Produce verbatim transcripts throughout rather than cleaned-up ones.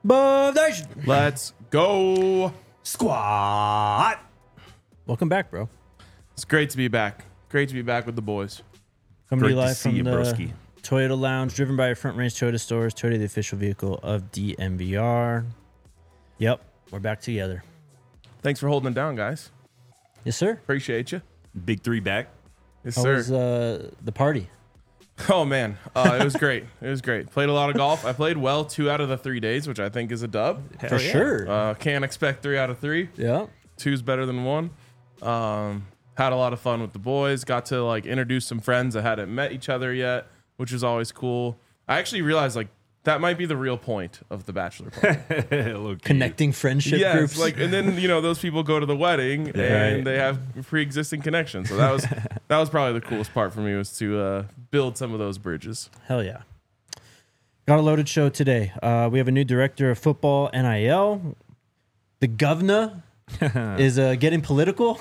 Above Nation. Let's go. Squat. Welcome back, bro. It's great to be back. Great to be back with the boys. Coming to Great you to live see from you, the broski. Toyota Lounge, driven by your Front Range Toyota stores. Toyota, the official vehicle of D M V R. Yep, we're back together. Thanks for holding it down, guys. Yes, sir. Appreciate you. Big three back. Yes, How sir. was uh, the party? Oh, man. Uh, it was great. It was great. Played a lot of golf. I played well two out of the three days, which I think is a dub. Hell For yeah. sure. Uh, can't expect three out of three. Yeah. Two's better than one. Um, had a lot of fun with the boys. Got to like introduce some friends that hadn't met each other yet, which was always cool. I actually realized like that might be the real point of the bachelor party. Low-key. Connecting friendship yes, groups. like and then you know those people go to the wedding and Right. they have pre-existing connections. So that was that was probably the coolest part for me was to uh, build some of those bridges. Hell yeah. Got a loaded show today. Uh, we have a new director of football, N I L. The governor is uh, getting political.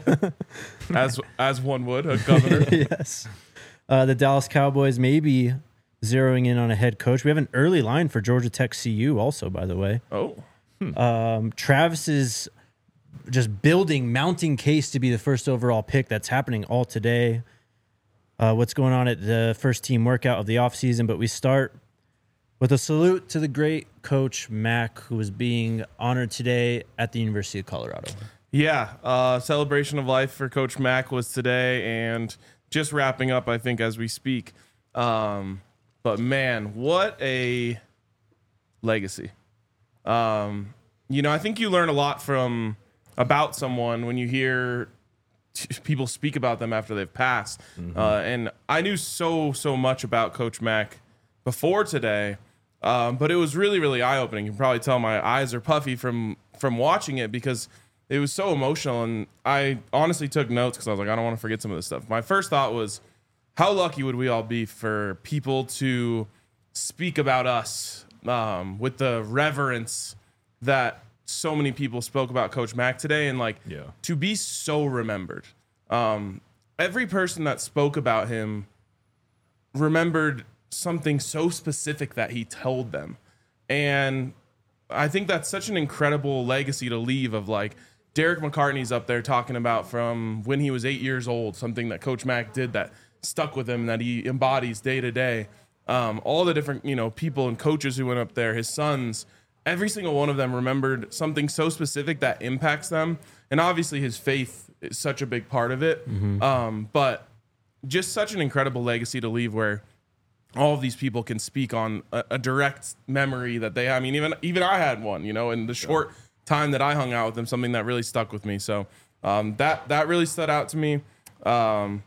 As as one would, a governor. Yes. Uh, the Dallas Cowboys may be zeroing in on a head coach. We have an early line for Georgia Tech C U also, by the way. Oh, Um, Travis is just building, mounting case to be the first overall pick. That's happening all today. Uh, what's going on at the first team workout of the offseason. But we start with a salute to the great coach Mac, who is being honored today at the University of Colorado. yeah. Uh, celebration of life for Coach Mack was today, and just wrapping up, I think, as we speak. Um, but man, what a legacy. Um, you know, I think you learn a lot from about someone when you hear t- people speak about them after they've passed. Uh, and I knew so, so much about Coach Mack before today, um, but it was really, really eye-opening. You can probably tell my eyes are puffy from from watching it because it was so emotional. And I honestly took notes because I was like, I don't want to forget some of this stuff. My first thought was, how lucky would we all be for people to speak about us um, with the reverence that so many people spoke about Coach Mack today, and like Yeah. to be so remembered. Um, every person that spoke about him remembered something so specific that he told them. And I think that's such an incredible legacy to leave of like Derek McCartney's up there talking about from when he was eight years old, something that Coach Mack did that stuck with him, that he embodies day to day. Um, all the different, you know, people and coaches who went up there, his sons, every single one of them remembered something so specific that impacts them. And obviously his faith is such a big part of it. Um, but just such an incredible legacy to leave where all of these people can speak on a, a direct memory that they, I mean, even, even I had one, you know, in the short time that I hung out with them, something that really stuck with me. So um, that, that really stood out to me. Um,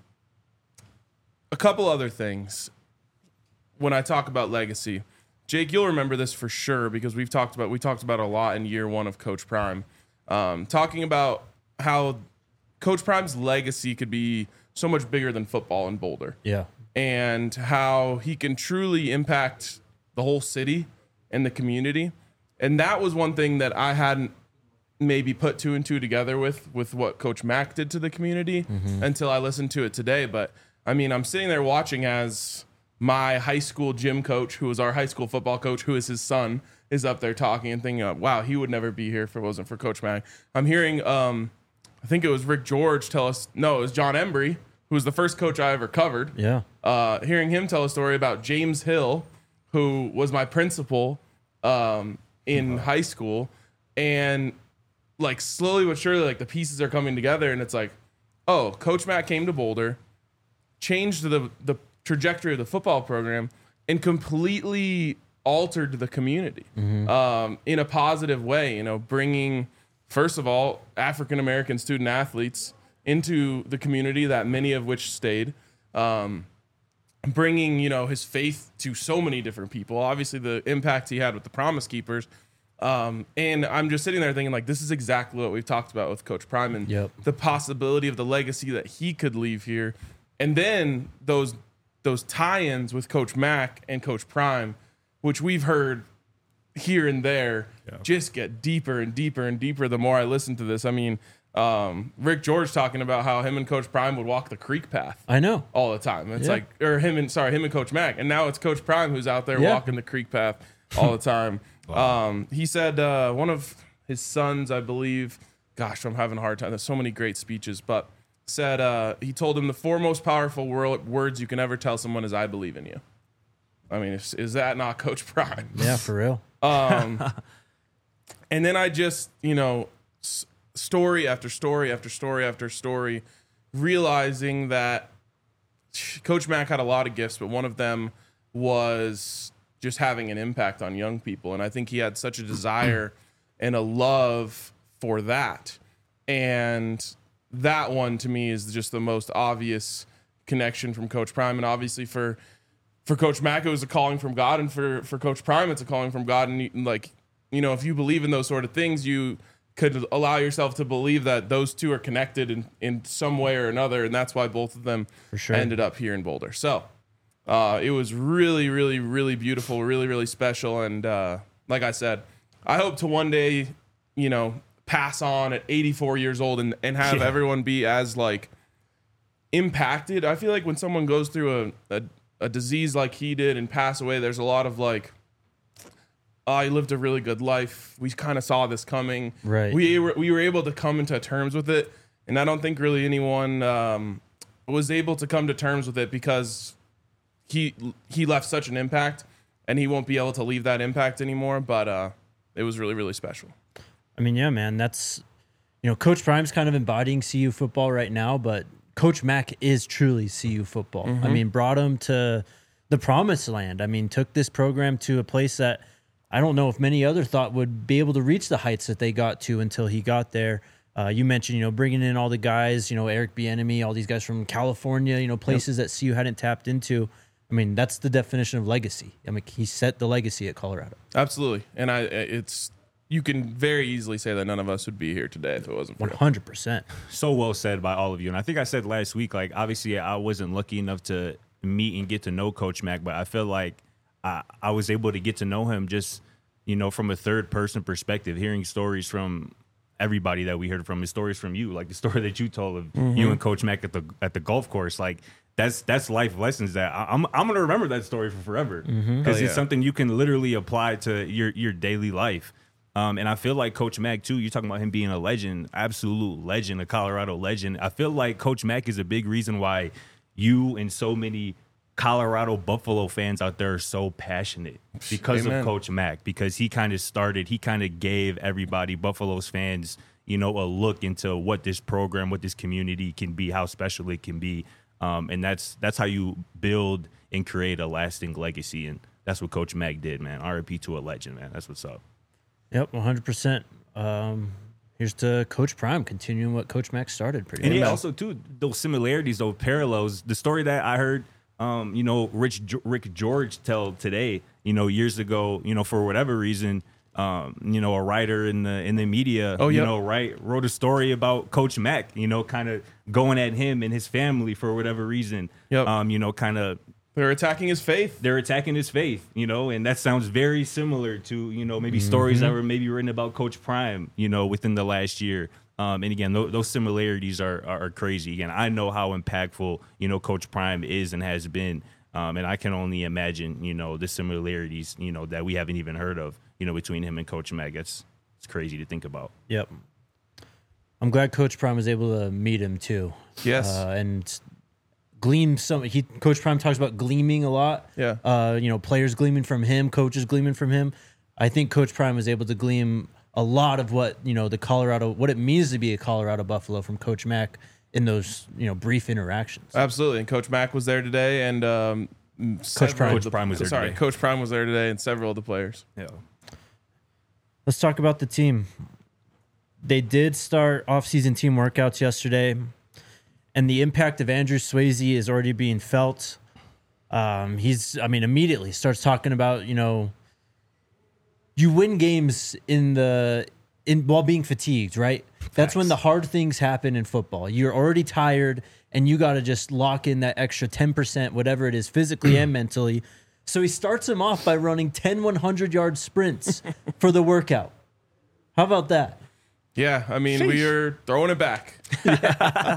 a couple other things when I talk about legacy, Jake, you'll remember this for sure because we've talked about, we talked about it a lot in year one of Coach Prime, um, talking about how Coach Prime's legacy could be so much bigger than football in Boulder. Yeah. And how he can truly impact the whole city and the community. And that was one thing that I hadn't maybe put two and two together with, with what Coach Mack did to the community until I listened to it today. But I mean, I'm sitting there watching as my high school gym coach, who was our high school football coach, who is his son, is up there talking and thinking, uh, wow, he would never be here if it wasn't for Coach Mack. I'm hearing, um, I think it was Rick George tell us, no, it was John Embry, who was the first coach I ever covered. Yeah. Uh, hearing him tell a story about James Hill, who was my principal um, in high school, and like slowly but surely, like the pieces are coming together, and it's like, oh, Coach Matt came to Boulder, changed the the trajectory of the football program, and completely altered the community um, in a positive way. You know, bringing first of all African American student athletes into the community, that many of which stayed. Um, bringing, you know, his faith to so many different people. Obviously, the impact he had with the Promise Keepers. Um, and I'm just sitting there thinking, like, this is exactly what we've talked about with Coach Prime and Yep. the possibility of the legacy that he could leave here. And then those those tie-ins with Coach Mack and Coach Prime, which we've heard here and there, Yeah. just get deeper and deeper and deeper the more I listen to this. I mean, um, Rick George talking about how him and Coach Prime would walk the creek path I know. all the time. It's Yeah. like, or him and sorry, him and Coach Mack, and now it's Coach Prime who's out there Yeah. walking the creek path all the time. Um, he said uh, one of his sons, I believe, gosh, I'm having a hard time. There's so many great speeches, but said uh, he told him the four most powerful wor- words you can ever tell someone is "I believe in you." I mean, is, is that not Coach Prime? Yeah, for real. Um, and then I just, you know, s- story after story after story after story, realizing that Coach Mack had a lot of gifts, but one of them was just having an impact on young people. And I think he had such a desire and a love for that. And that one to me is just the most obvious connection from Coach Prime. And obviously for for Coach Mack, it was a calling from God. And for, for Coach Prime, it's a calling from God. And, and like, you know, if you believe in those sort of things, you could allow yourself to believe that those two are connected in, in some way or another. And that's why both of them For sure. ended up here in Boulder. So uh, it was really, really, really beautiful, really, really special. And uh, like I said, I hope to one day, you know, pass on at eighty-four years old and, and have Yeah. everyone be as like impacted. I feel like when someone goes through a, a, a disease like he did and pass away, there's a lot of like, oh, he lived a really good life. We kind of saw this coming. Right. We were, we were able to come into terms with it. And I don't think really anyone um, was able to come to terms with it because he he left such an impact and he won't be able to leave that impact anymore. But uh, it was really, really special. I mean, yeah, man, that's, you know, Coach Prime's kind of embodying C U football right now, but Coach Mack is truly C U football. I mean, brought him to the promised land. I mean, took this program to a place that I don't know if many other thought would be able to reach the heights that they got to until he got there. Uh, you mentioned, you know, bringing in all the guys, you know, Eric Bieniemy, all these guys from California, you know, places yep. that C U hadn't tapped into. I mean, that's the definition of legacy. I mean, he set the legacy at Colorado. Absolutely. And I, it's, you can very easily say that none of us would be here today if it wasn't for one hundred percent. So well said by all of you. And I think I said last week, like, obviously I wasn't lucky enough to meet and get to know Coach Mack, but I feel like I, I was able to get to know him just, you know, from a third person perspective, hearing stories from everybody that we heard from, his stories from you, like the story that you told of mm-hmm. you and Coach Mack at the at the golf course. Like, that's that's life lessons that I, I'm I'm gonna remember that story for forever because mm-hmm. oh, yeah. it's something you can literally apply to your your daily life. Um, and I feel like Coach Mack too. You're talking about him being a legend, absolute legend, a Colorado legend. I feel like Coach Mack is a big reason why you and so many Colorado Buffalo fans out there are so passionate because Amen. of Coach Mack, because he kind of started, he kind of gave everybody, Buffalo's fans, you know, a look into what this program, what this community can be, how special it can be. Um, and that's that's how you build and create a lasting legacy. And that's what Coach Mack did, man. R I P to a legend, man. That's what's up. Yep, one hundred percent. Um, here's to Coach Prime, continuing what Coach Mack started pretty And much. yeah, also, too, those similarities, those parallels, the story that I heard, um, you know, Rich Rick George tell today, you know, years ago, you know, for whatever reason, um, you know, a writer in the in the media, oh, you yep. know, right, wrote a story about Coach Mack, you know, kind of going at him and his family for whatever reason. Yep. Um, you know, kind of they're attacking his faith. They're attacking his faith, you know, and that sounds very similar to, you know, maybe mm-hmm. stories that were maybe written about Coach Prime, you know, within the last year. Um, and again, th- those similarities are, are are crazy. Again, I know how impactful, you know, Coach Prime is and has been. Um, and I can only imagine, you know, the similarities, you know, that we haven't even heard of, you know, between him and Coach Mack. It's, it's crazy to think about. Yep. I'm glad Coach Prime was able to meet him too. Yes. Uh, and gleam some. He Coach Prime talks about gleaming a lot. Yeah. Uh, you know, players gleaming from him, coaches gleaming from him. I think Coach Prime was able to gleam a lot of what, you know, the Colorado, what it means to be a Colorado Buffalo from Coach Mack in those, you know, brief interactions. Absolutely. And Coach Mack was there today, and um, Coach Prime. Coach the, Prime was there sorry, today. Coach Prime was there today, and several of the players. Yeah. Let's talk about the team. They did start off-season team workouts yesterday, and the impact of Andrew Swayze is already being felt. Um, he's, I mean, immediately starts talking about, you know, you win games in the in while being fatigued, right? Facts. That's when the hard things happen in football. You're already tired, and you got to just lock in that extra ten percent, whatever it is, physically and mentally. So he starts him off by running ten hundred-yard sprints for the workout. How about that? Yeah, I mean, Sheesh. we are throwing it back.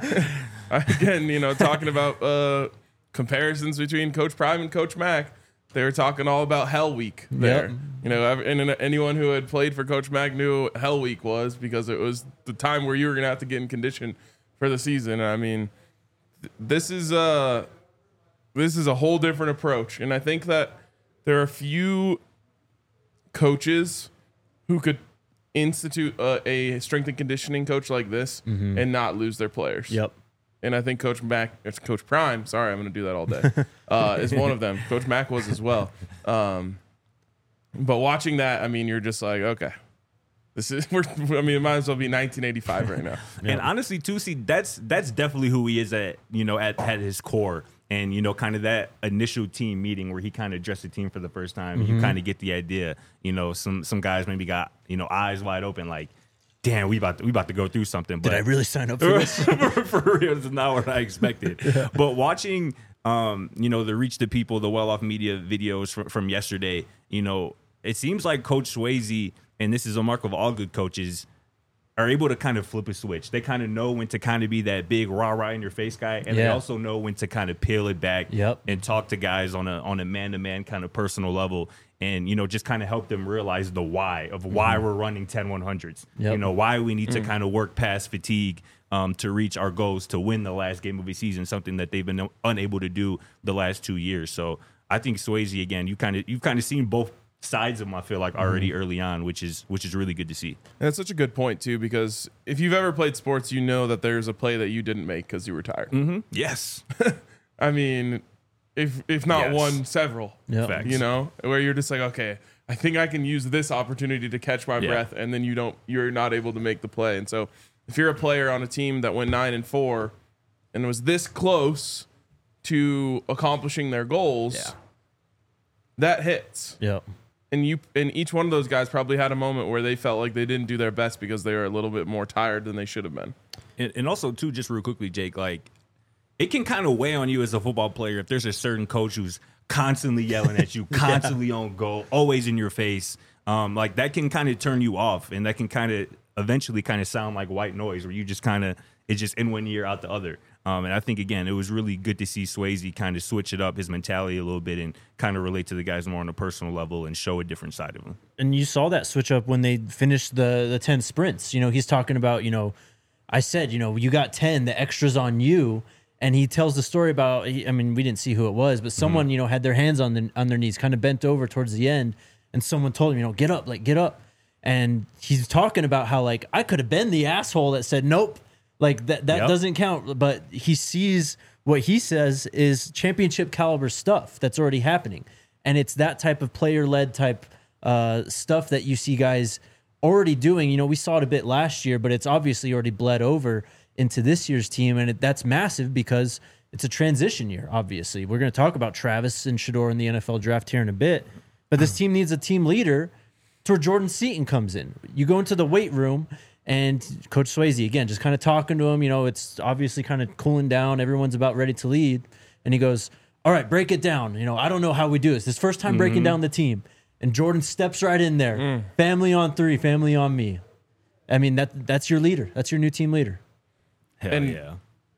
Again, you know, talking about uh, comparisons between Coach Prime and Coach Mack. They were talking all about Hell Week there. Yep. You know, ev- and anyone who had played for Coach Mack knew what Hell Week was, because it was the time where you were going to have to get in condition for the season. I mean, th- this is a this is a whole different approach, and I think that there are a few coaches who could institute a, a strength and conditioning coach like this Mm-hmm. and not lose their players. Yep. And I think Coach Mack, it's Coach Prime, sorry, I'm going to do that all day, uh, is one of them. Coach Mack was as well. Um, but watching that, I mean, you're just like, okay, this is, we're, I mean, it might as well be nineteen eighty-five right now. And honestly, too, see, that's that's definitely who he is at, you know, at, at his core. And, you know, kind of that initial team meeting where he kind of addressed the team for the first time, Mm-hmm. you kind of get the idea. You know, some some guys maybe got, you know, eyes wide open, like, damn, we about to, we about to go through something. But Did I really sign up for this? for real, this is not what I expected. Yeah. But watching, um, you know, the Reach the People, the Well Off Media videos from, from yesterday, you know, it seems like Coach Swayze, and this is a mark of all good coaches, are able to kind of flip a switch. They kind of know when to kind of be that big rah rah in your face guy, and they Yeah. also know when to kind of peel it back Yep. and talk to guys on a on a man to man kind of personal level, and you know just kind of help them realize the why of why Mm-hmm. we're running ten one hundreds. Yep. You know why we need to Mm. kind of work past fatigue um, to reach our goals to win the last game of the season, something that they've been unable to do the last two years. So I think Swayze, again, you kind of you've kind of seen both sides of him, I feel like, already Mm-hmm. early on, which is which is really good to see. And that's such a good point, too, because if you've ever played sports, you know that there's a play that you didn't make because you were tired. Mm-hmm. Yes. I mean, if if not Yes. one, several. Yep. Facts. You know, where you're just like, okay, I think I can use this opportunity to catch my Yeah. breath, and then you don't, you're not able to make the play. And so, if you're a player on a team that went nine and four, and was this close to accomplishing their goals, Yeah. that hits. Yep. And you and each one of those guys probably had a moment where they felt like they didn't do their best because they were a little bit more tired than they should have been. And, and also, too, just real quickly, Jake, like, it can kind of weigh on you as a football player if there's a certain coach who's constantly yelling at you, constantly on goal, always in your face. Um, like, that can kind of turn you off, and that can kind of eventually kind of sound like white noise where you just kind of, it's just in one ear, out the other. Um, and I think, again, it was really good to see Swayze kind of switch it up, his mentality a little bit, and kind of relate to the guys more on a personal level and show a different side of him. And you saw that switch up when they finished the the ten sprints. You know, he's talking about, you know, I said, you know, you got ten, the extra's on you. And he tells the story about, I mean, we didn't see who it was, but someone, Mm-hmm. you know, had their hands on, the, on their knees, kind of bent over towards the end. And someone told him, you know, get up, like, get up. And he's talking about how, like, I could have been the asshole that said, nope, like, that, that Yep. doesn't count. But he sees what he says is championship caliber stuff that's already happening. And it's that type of player-led type uh, stuff that you see guys already doing. You know, we saw it a bit last year, but it's obviously already bled over into this year's team, and it, that's massive because it's a transition year, obviously. We're going to talk about Travis and Shedeur in the N F L draft here in a bit, but this team needs a team leader to where Jordan Seaton comes in. You go into the weight room, and Coach Swayze, again, just kind of talking to him. You know, it's obviously kind of cooling down. Everyone's about ready to lead, and he goes, all right, break it down. You know, I don't know how we do this. This first time breaking down the team, and Jordan steps right in there. Mm. Family on three, family on me. I mean, that that's your leader. That's your new team leader. Hell And- yeah.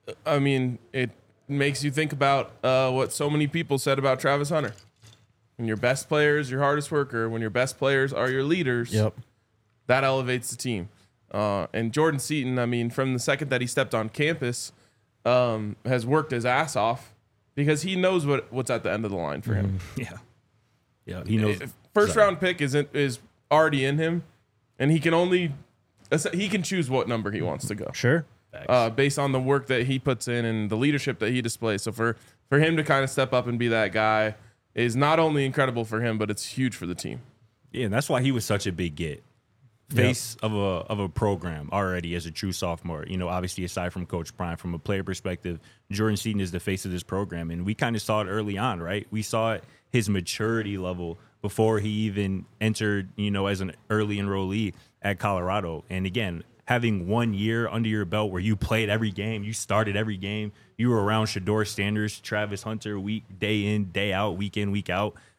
I mean, it makes you think about uh, what so many people said about Travis Hunter. When your best player is your hardest worker, when your best players are your leaders, that elevates the team. Uh, and Jordan Seaton, I mean, from the second that he stepped on campus, um, has worked his ass off because he knows what, what's at the end of the line for him. Yeah. Yeah. He knows. If First Sorry. round pick isn't is already in him, and he can only he can choose what number he wants to go. Sure. Uh, based on the work that he puts in and the leadership that he displays. So for, for him to kind of step up and be that guy is not only incredible for him, but it's huge for the team. Yeah, and that's why he was such a big get. Face of a of a program already as a true sophomore. You know, obviously aside from Coach Prime, from a player perspective, Jordan Seaton is the face of this program. And we kind of saw it early on, right? We saw it, his maturity level before he even entered, you know, as an early enrollee at Colorado. And again, having one year under your belt where you played every game, you started every game, you were around Shedeur Sanders, Travis Hunter, week day in, day out, week in, week out.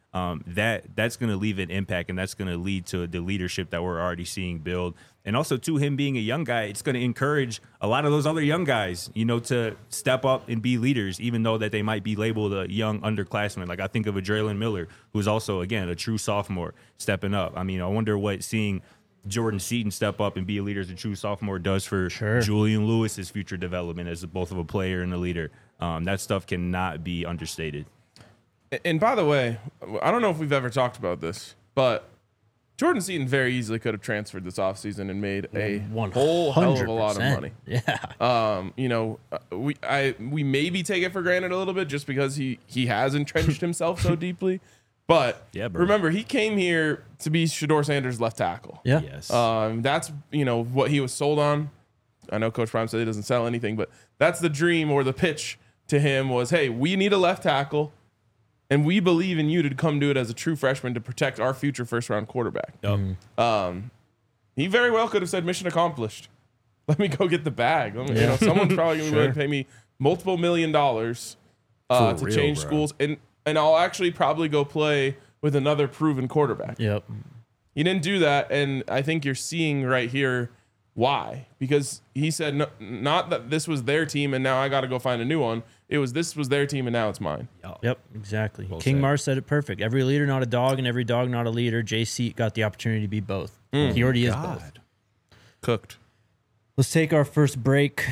Um, that that's going to leave an impact, and that's going to lead to the leadership that we're already seeing build. And also, to him being a young guy, it's going to encourage a lot of those other young guys, you know, to step up and be leaders, even though that they might be labeled a young underclassman. Like I think of a Draylen Miller, who's also, again, a true sophomore stepping up. I mean, I wonder what seeing Jordan Seaton step up and be a leader as a true sophomore does for Sure. Julian Lewis's future development as both of a player and a leader. Um, that stuff cannot be understated. And by the way, I don't know if we've ever talked about this, but Jordan Seaton very easily could have transferred this offseason and made a whole hell of a lot of money. Yeah. Um, you know, uh, we I we maybe take it for granted a little bit just because he he has entrenched himself so deeply. But Yeah, bro. remember, he came here to be Shedeur Sanders' left tackle. Yeah. Yes. Um, that's you know what he was sold on. I know Coach Prime said he doesn't sell anything, but that's the dream or the pitch to him was, hey, we need a left tackle. And we believe in you to come do it as a true freshman to protect our future first round quarterback. Yep. Um, he very well could have said, mission accomplished. Let me go get the bag. Let me- you Yeah. know, someone's probably going to be willing to pay me multiple million dollars uh, For to real, change bro. schools. And, and I'll actually probably go play with another proven quarterback. Yep. He didn't do that. And I think you're seeing right here why. Because he said, no, not that this was their team and now I got to go find a new one. It was this was their team and now it's mine. Yep, exactly. Well King said. Mars said it perfect. Every leader, not a dog, and every dog, not a leader. J C got the opportunity to be both. He already is both. Cooked. Let's take our first break.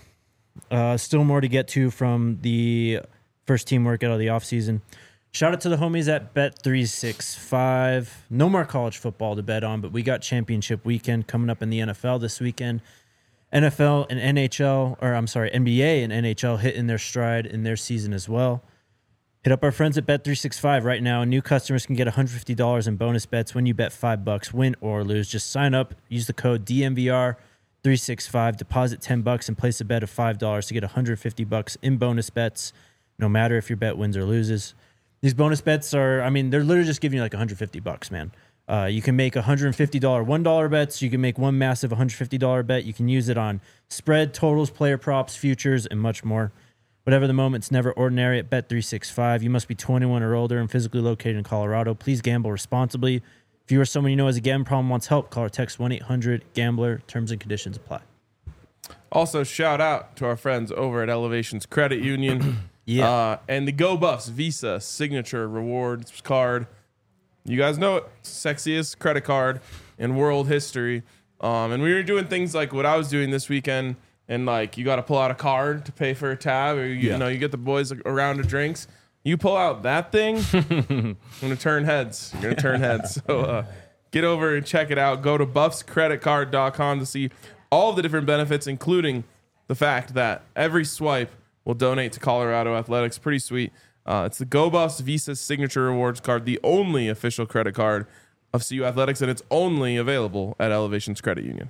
Uh, still more to get to from the first team workout of the offseason. Shout out to the homies at Bet three sixty-five. No more college football to bet on, but we got championship weekend coming up in the N F L this weekend. N F L and N H L, or I'm sorry, N B A and N H L hitting their stride in their season as well. Hit up our friends at Bet three sixty-five right now. New customers can get one hundred fifty dollars in bonus bets when you bet five bucks, win or lose. Just sign up, use the code D M V R three sixty-five, deposit ten bucks and place a bet of five dollars to get one hundred fifty bucks in bonus bets, no matter if your bet wins or loses. These bonus bets are, I mean, they're literally just giving you like one hundred fifty bucks, man. Uh, you can make one hundred fifty dollars one dollar bets. You can make one massive one hundred fifty dollars bet. You can use it on spread, totals, player props, futures, and much more. Whatever the moment, it's never ordinary at Bet three sixty-five. You must be twenty-one or older and physically located in Colorado. Please gamble responsibly. If you or someone you know has a gambling problem wants help, call or text one eight hundred gambler. Terms and conditions apply. Also, shout out to our friends over at Elevations Credit Union. Yeah. Uh, and the Go Buffs Visa Signature Rewards Card. You guys know it. Sexiest credit card in world history. Um, and we were doing things like what I was doing this weekend. And like, you got to pull out a card to pay for a tab. Or, you, Yeah. you know, you get the boys a round of drinks. You pull out that thing, I'm going to turn heads. You're going to turn heads. So uh, get over and check it out. Go to buffs credit card dot com to see all of the different benefits, including the fact that every swipe will donate to Colorado Athletics. Pretty sweet. Uh, it's the Go Buffs Visa Signature Rewards Card, the only official credit card of C U Athletics, and it's only available at Elevations Credit Union.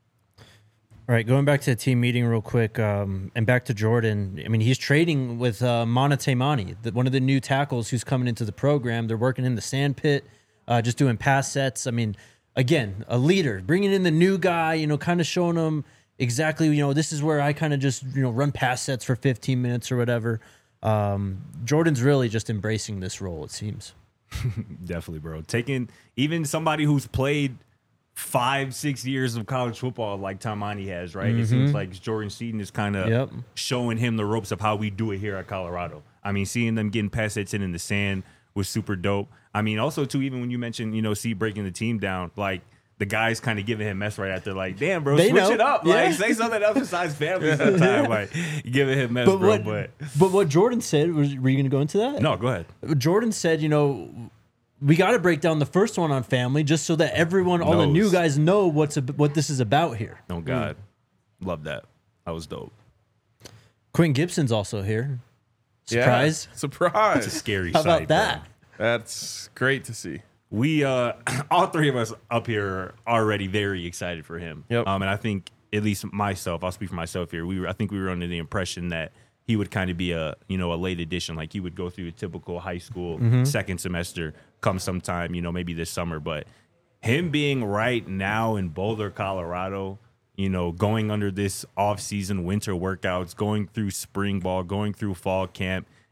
All right, going back to the team meeting real quick, um, and back to Jordan. I mean, he's trading with uh, Mana Taimani, the, one of the new tackles who's coming into the program. They're working in the sand pit, uh, just doing pass sets. I mean, again, a leader, bringing in the new guy, you know, kind of showing them exactly, you know, this is where I kind of just, you know, run pass sets for fifteen minutes or whatever. Um, Jordan's really just embracing this role, it seems. Definitely, bro. Taking even somebody who's played five, six years of college football like Taimani has, right? It seems like Jordan Seaton is kind of Yep. showing him the ropes of how we do it here at Colorado. I mean, seeing them getting pass hits in in the sand was super dope. I mean, also, too, even when you mentioned, you know, Seat breaking the team down, like, the guys kind of giving him mess right after, like, damn, bro, They switch know. it up. Yeah. Like, say something else besides family sometime. Like, giving him mess, But bro. what, But but what Jordan said, was, were you going to go into that? no, go ahead. Jordan said, you know, we got to break down the first one on family just so that everyone, all the new Knows. guys know what's ab- what this is about here. Oh, God. Love that. That was dope. Quinn Gibson's also here. Surprise. Yeah. Surprise. It's a scary How sight, about that? bro. That's great to see. We, uh, all three of us up here are already very excited for him. Yep. Um, and I think, at least myself, I'll speak for myself here. We were, I think we were under the impression that he would kind of be a, you know, a late addition. Like he would go through a typical high school second semester, come sometime, you know, maybe this summer. But him being right now in Boulder, Colorado, you know, going under this off-season winter workouts, going through spring ball, going through fall camp,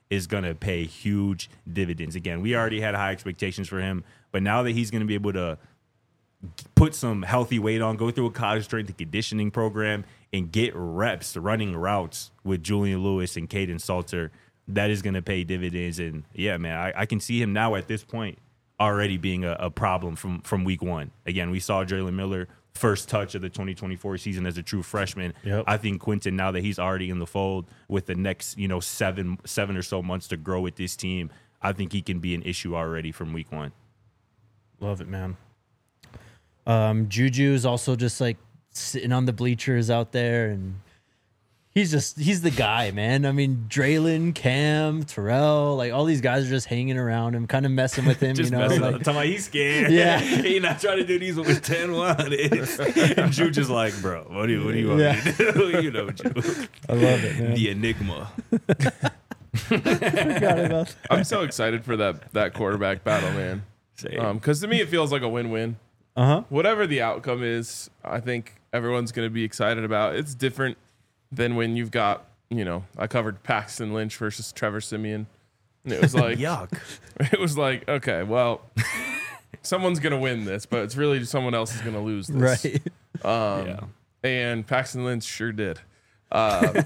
is going to pay huge dividends. Again, we already had high expectations for him, but now that he's going to be able to put some healthy weight on, go through a college strength and conditioning program, and get reps running routes with Julian Lewis and Caden Salter, that is going to pay dividends. And yeah, man, I, I can see him now at this point already being a, a problem from, from week one. Again, we saw Jalen Miller first touch of the twenty twenty-four season as a true freshman. Yep. I think Quentin, now that he's already in the fold with the next, you know, seven, seven or so months to grow with this team, I think he can be an issue already from week one. Love it, man. Um, Juju is also just like sitting on the bleachers out there, and he's just he's the guy, man. I mean, Draylon, Cam, Terrell, like all these guys are just hanging around him, kind of messing with him. Just you know, messing like, up. Talking about he's scared. Yeah. He not trying to do these with ten one. And Juju just like, bro, what do you what do you want Yeah. me to do? You know, Juju. I love it, man. The enigma. Forgot about that. I'm so excited for that that quarterback battle, man. Say, Because to me, it feels like a win-win. Uh huh. Whatever the outcome is, I think everyone's going to be excited about. It's different than when you've got, you know, I covered Paxton Lynch versus Trevor Siemian, and it was like, yuck. it was like, okay, well, someone's going to win this, but it's really someone else is going to lose this. Right. Um, Yeah. And Paxton Lynch sure did. Uh,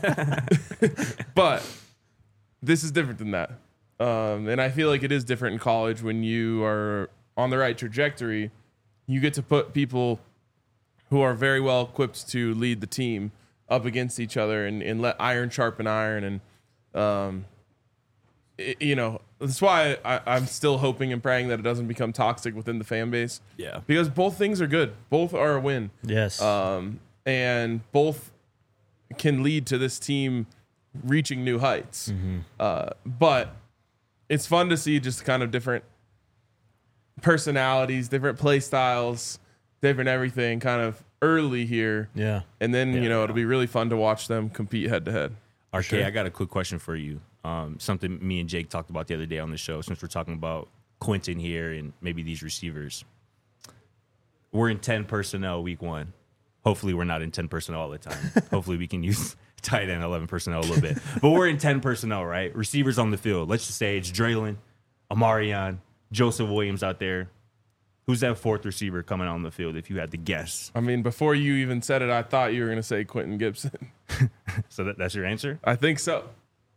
but this is different than that. Um, and I feel like it is different in college when you are on the right trajectory. You get to put people who are very well equipped to lead the team up against each other and, and let iron sharpen iron. And, um, it, you know, that's why I, I'm still hoping and praying that it doesn't become toxic within the fan base. Yeah. Because both things are good. Both are a win. Yes. Um, and both can lead to this team reaching new heights. Mm-hmm. Uh, but it's fun to see just kind of different personalities, different play styles, different everything kind of early here. yeah. And then, Yeah, you know, yeah. it'll be really fun to watch them compete head to head. R K, Sure. I got a quick question for you. Um, something me and Jake talked about the other day on the show, since we're talking about Quentin here and maybe these receivers. We're in ten personnel week one. Hopefully we're not in ten personnel all the time. Hopefully we can use tight end eleven personnel a little bit. But we're in ten personnel, right? Receivers on the field. Let's just say it's Draylon, Amarion, Joseph Williams out there. Who's that fourth receiver coming on the field if you had to guess? I mean, before you even said it, I thought you were going to say Quentin Gibson. So that, that's your answer? I think so.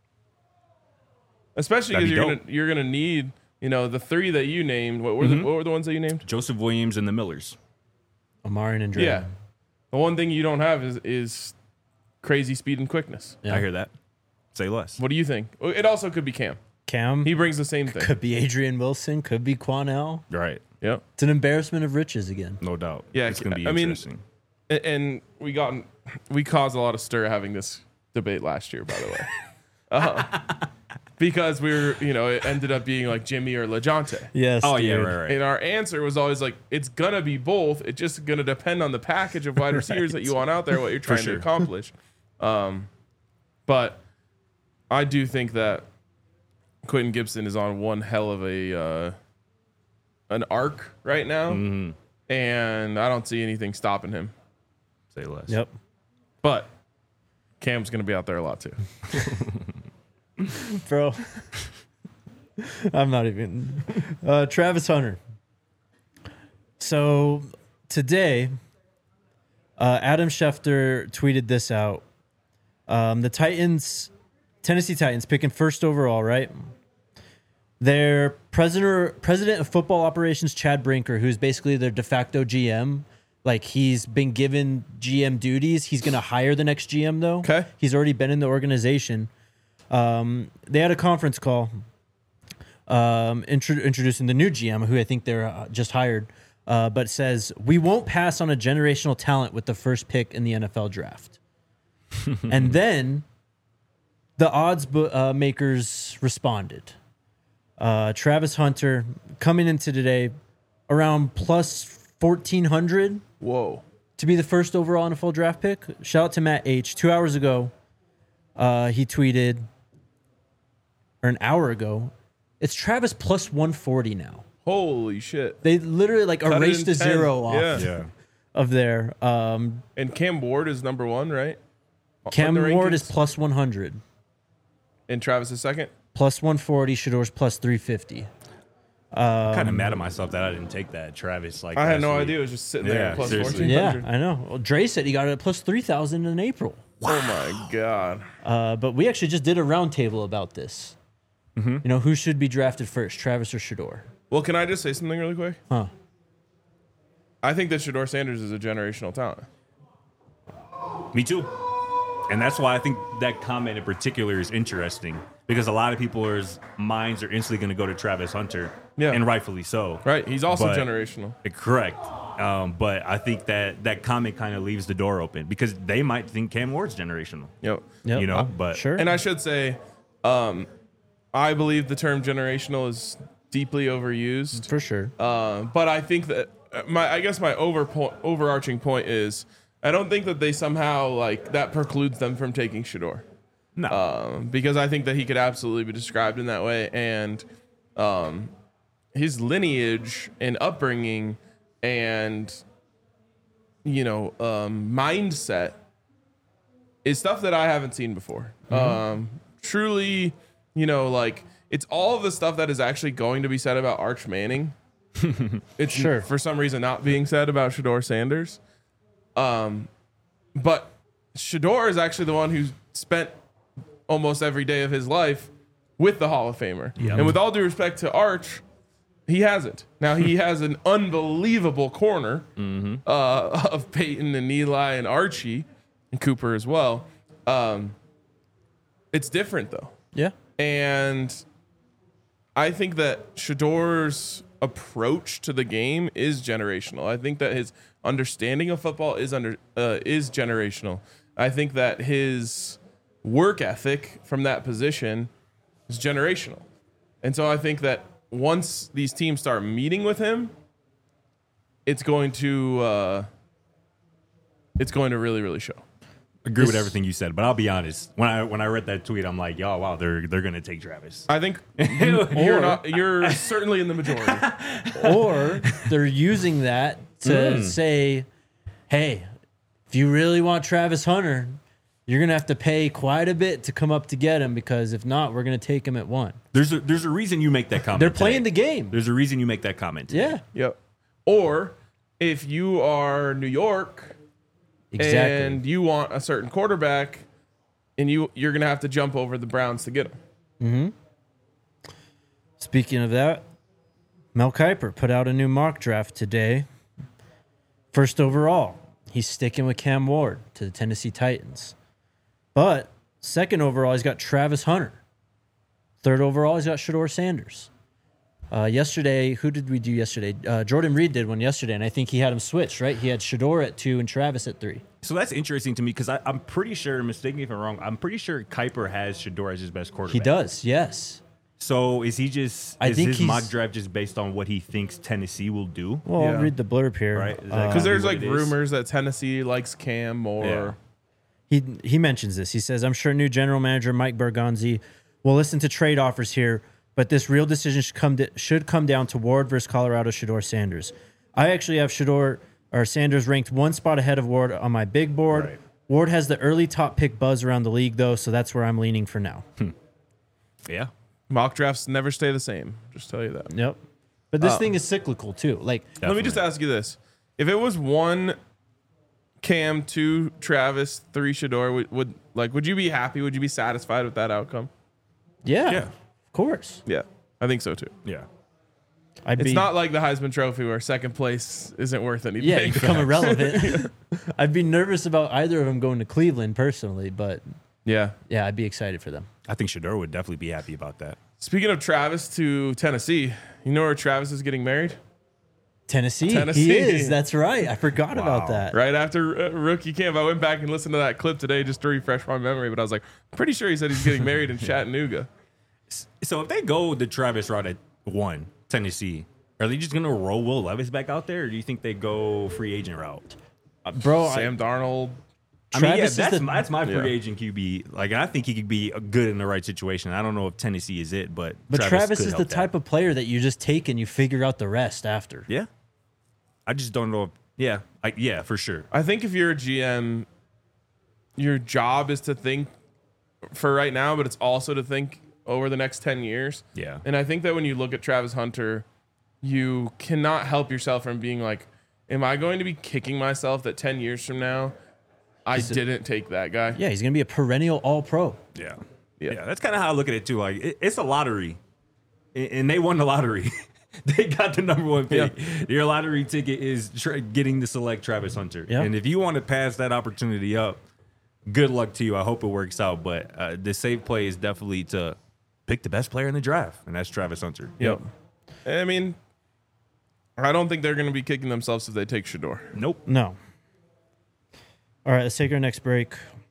Especially That'd because be you're dope. gonna you're gonna need, you know, the three that you named. What were the, what were the ones that you named? Joseph Williams and the Millers. Amarian and Draymond. Yeah. The one thing you don't have is is crazy speed and quickness. Yeah. I hear that. Say less. What do you think? It also could be Cam. Cam. He brings the same thing. could be Adrian Wilson. Could be Quanell. Right. Yep. It's an embarrassment of riches again. No doubt. Yeah, It's going to be I mean- interesting. A- And we got we caused a lot of stir having this debate last year, by the way, uh, because we were, you know, it ended up being like Jimmy or LeJontay. Yes. Oh, yeah, dude. right, right. And our answer was always like, it's gonna be both. It's just gonna depend on the package of wide receivers that you want out there, what you're trying sure. to accomplish. Um, but I do think that Quentin Gibson is on one hell of a uh, an arc right now, Mhm. and I don't see anything stopping him. Say less. Yep. But Cam's gonna be out there a lot too. Bro. I'm not even. Uh, Travis Hunter. So today, uh, Adam Schefter tweeted this out. Um, the Titans, Tennessee Titans, picking first overall, right? Their president, president of football operations, Chad Brinker, who's basically their de facto G M. Like, he's been given G M duties. He's going to hire the next G M, though. Okay. He's already been in the organization. Um, they had a conference call um, intro- introducing the new G M, who I think they're uh, just hired, uh, but says, we won't pass on a generational talent with the first pick in the N F L draft. And then the odds bu- uh, makers responded. Uh, Travis Hunter coming into today around plus fourteen hundred Whoa. to be the first overall N F L draft pick. Shout out to Matt H. Two hours ago, uh, he tweeted, or an hour ago, it's Travis plus one forty now. Holy shit. They literally like Cut it erased in a ten. zero off Yeah. Yeah. of there. Um, And Cam Ward is number one, right? Cam In the Ward is rankings? plus one hundred. And Travis is second. plus one forty. Shador's plus three fifty. I'm kind of mad at myself that I didn't take that Travis. Like I had last no week. idea. It was just sitting there Yeah, at plus seriously. fourteen Yeah, hundred. I know. Well, Dre said he got it at plus three thousand in April. Oh my God. Uh, but we actually just did a roundtable about this. Mm-hmm. You know, who should be drafted first, Travis or Shador? Well, can I just say something really quick? Huh. I think that Shador Sanders is a generational talent. Me too. And that's why I think that comment in particular is interesting because a lot of people's minds are instantly going to go to Travis Hunter, Yeah. and rightfully so. Right. He's also But- generational. Correct. Um, but I think that that comment kind of leaves the door open because they might think Cam Ward's generational. Yep. Yep. You know, Uh, but sure. And I should say, um, I believe the term generational is deeply overused. For sure. Uh, but I think that uh, my, I guess my over po- overarching point is, I don't think that they somehow like that precludes them from taking Shador. no. Um, because I think that he could absolutely be described in that way, and um, his lineage and upbringing and you know um, mindset is stuff that I haven't seen before. Um, truly, you know, like it's all of the stuff that is actually going to be said about Arch Manning. It's Sure. for some reason not being said about Shador Sanders. Um, but Shador is actually the one who spent almost every day of his life with the Hall of Famer. And with all due respect to Arch, he hasn't. Now he has an unbelievable corner uh, of Peyton and Eli and Archie and Cooper as well. Um, it's different though. Yeah. And I think that Shador's approach to the game is generational. I think that his understanding of football is under uh, is generational. I think that his work ethic from that position is generational. And so I think that once these teams start meeting with him, it's going to uh, it's going to really, really show. agree with everything you said, but I'll be honest. When I when I read that tweet, I'm like, "Yo, wow, they're they're gonna take Travis." I think you're not. You're certainly in the majority. Or they're using that to Hmm. say, hey, if you really want Travis Hunter, you're going to have to pay quite a bit to come up to get him because if not, we're going to take him at one. There's a there's a reason you make that comment. They're playing today. the game. There's a reason you make that comment. today. Yeah, Yep. Or if you are New York exactly. and you want a certain quarterback, and you you're gonna have to jump over the Browns to get him. Speaking of that, Mel Kiper put out a new mock draft today. First overall, he's sticking with Cam Ward to the Tennessee Titans. But second overall, he's got Travis Hunter. Third overall, he's got Shador Sanders. Uh, yesterday, who did we do yesterday? Uh, Jordan Reed did one yesterday, and I think he had him switched, right? He had Shador at two and Travis at three. So that's interesting to me because I'm pretty sure, mistake me if I'm wrong, I'm pretty sure Kuiper has Shador as his best quarterback. He does, yes. So is he just, I is think his he's- mock draft just based on what he thinks Tennessee will do? Well, Yeah. I'll read the blurb here. Right. Is that Uh, Because there's what like it is? rumors that Tennessee likes Cam more. Yeah. He he mentions this. He says, I'm sure new general manager Mike Bergonzi will listen to trade offers here, but this real decision should come to, should come down to Ward versus Colorado Shador Sanders. I actually have Shador or Sanders ranked one spot ahead of Ward on my big board. Right. Ward has the early top pick buzz around the league, though, so that's where I'm leaning for now. Yeah. Mock drafts never stay the same. Just tell you that. Yep. But this Uh, thing is cyclical, too. Like, Let me just Definitely. ask you this: if it was one Cam, two Travis, three Shador, would, would like would you be happy? Would you be satisfied with that outcome? yeah, Yeah. of course. Yeah, I think so too. Yeah. I'd It's be, not like the Heisman Trophy where second place isn't worth anything. yeah, you become irrelevant. I'd be nervous about either of them going to Cleveland personally, but yeah. yeah, I'd be excited for them. I think Shador would definitely be happy about that. Speaking of Travis to Tennessee, you know where Travis is getting married? Tennessee, Tennessee. he is. That's right. I forgot about Wow. that. Right after uh, rookie camp, I went back and listened to that clip today just to refresh my memory. But I was like, pretty sure he said he's getting married in Chattanooga. So if they go the Travis route at one, Tennessee, are they just going to roll Will Levis back out there, or do you think they go free agent route? Uh, bro, I- Sam Darnold. I mean, yeah, Travis is that's the- my, that's my free Yeah. agent Q B. Like, I think he could be good in the right situation. I don't know if Tennessee is it, but But Travis, Travis, could is the help type that. of player that you just take and you figure out the rest after. Yeah, I just don't know. If, yeah, I, yeah, for sure. I think if you're a G M, your job is to think for right now, but it's also to think over the next ten years. Yeah. And I think that when you look at Travis Hunter, you cannot help yourself from being like, am I going to be kicking myself that ten years from now I didn't take that guy? Yeah, he's going to be a perennial all-pro. Yeah. Yeah. Yeah. That's kind of how I look at it too. Like it, it's a lottery, and, and they won the lottery. They got the number one pick. Yeah. Your lottery ticket is tra- getting to select Travis Hunter. Yeah. And if you want to pass that opportunity up, good luck to you. I hope it works out. But uh, the safe play is definitely to pick the best player in the draft, and that's Travis Hunter. Yep. I mean, I don't think they're going to be kicking themselves if they take Shador. Nope. No. All right, let's take our next break.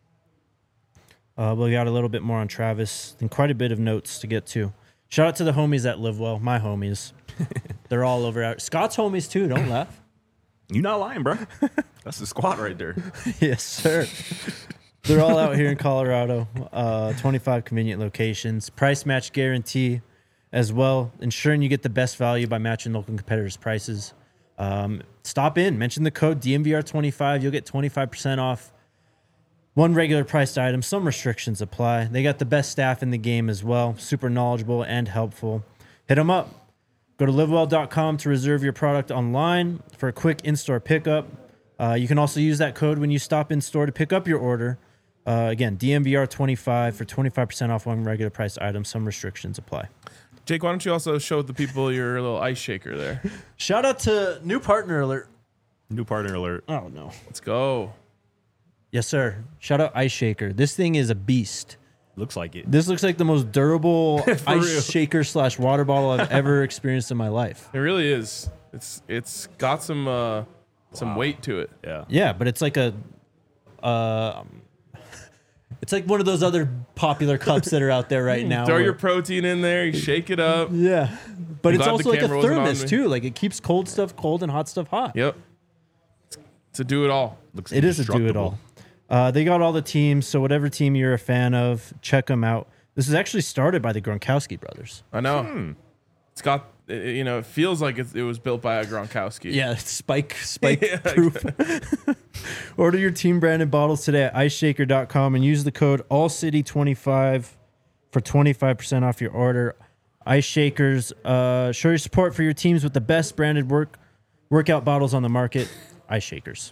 Uh, we got a little bit more on Travis and quite a bit of notes to get to. Shout out to the homies at Live Well, my homies. They're all over out. Scott's homies too. Don't laugh. You're not lying, bro. That's the squad right there. Yes, sir. They're all out here in Colorado. Uh, twenty-five convenient locations. Price match guarantee as well, ensuring you get the best value by matching local competitors' prices. Um, stop in. Mention the code D M V R twenty-five. You'll get twenty-five percent off one regular priced item. Some restrictions apply. They got the best staff in the game as well. Super knowledgeable and helpful. Hit them up. Go to live well dot com to reserve your product online for a quick in-store pickup. Uh, you can also use that code when you stop in store to pick up your order. Uh, again, D M V R twenty-five for twenty-five percent off one regular priced item. Some restrictions apply. Jake, why don't you also show the people your little ice shaker there? Shout out to new partner alert. New partner alert. Oh, no. Let's go. Yes, sir. Shout out Ice Shaker. This thing is a beast. Looks like it. This looks like the most durable ice real. shaker slash water bottle I've ever experienced in my life. It really is. It's it's got some uh, some Wow. weight to it. Yeah. Yeah, but it's like a, uh, it's like one of those other popular cups that are out there right now. Throw where- your protein in there, you shake it up. yeah, but I'm it's glad also the like a camera wasn't on thermos me. too. Like it keeps cold stuff cold and hot stuff hot. Yep. To do it all. Looks It is a do it indestructible. all. Uh, they got all the teams, so whatever team you're a fan of, check them out. This is actually started by the Gronkowski brothers. I know. Hmm. It's got, it- you know, it feels like it, it was built by a Gronkowski. Yeah, it's spike spike Yeah, proof. Order your team branded bottles today at ice shaker dot com and use the code all city twenty-five for twenty-five percent off your order. Ice Shakers, uh, show your support for your teams with the best branded work workout bottles on the market. Ice Shakers.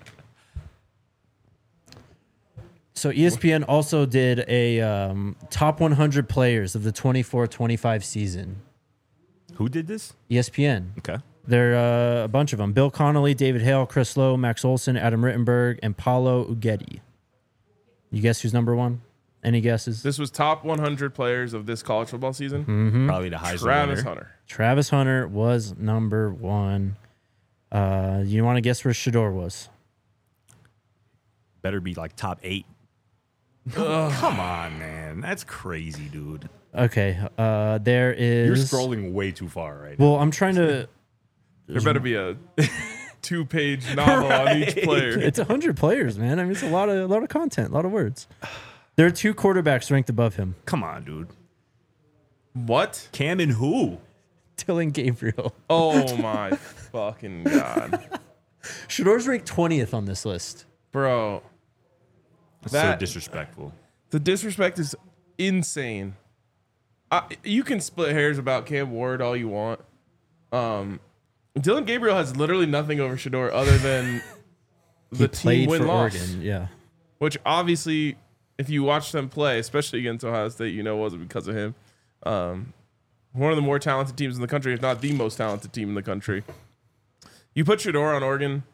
So E S P N also did a um, top one hundred players of the twenty-four twenty-five season. Who did this? E S P N. Okay. There are uh, a bunch of them. Bill Connolly, David Hale, Chris Lowe, Max Olson, Adam Rittenberg, and Paulo Uggetti. You guess who's number one? Any guesses? This was top one hundred players of this college football season. Mm-hmm. Probably the Heisman Travis winner. Hunter. Travis Hunter was number one. Uh, you want to guess where Shador was? Better be like top eight. Come on, man. That's crazy, dude. Okay. Uh, there is. You're scrolling way too far right now. Well, I'm trying to. There better be a two-page novel on each player. It's one hundred players, man. I mean, it's a lot of a lot of content, a lot of words. There are two quarterbacks ranked above him. Come on, dude. What? Cam and who? Dylan Gabriel. Oh my fucking god, Shador's ranked twentieth on this list. bro! That's That- so disrespectful. The disrespect is insane. I, you can split hairs about Cam Ward all you want. Um, Dylan Gabriel has literally nothing over Shador other than He the played team win for loss, Oregon. Yeah. which obviously, if you watch them play, especially against Ohio State, you know it wasn't because of him. Um, one of the more talented teams in the country, if not the most talented team in the country. You put Shador on Oregon.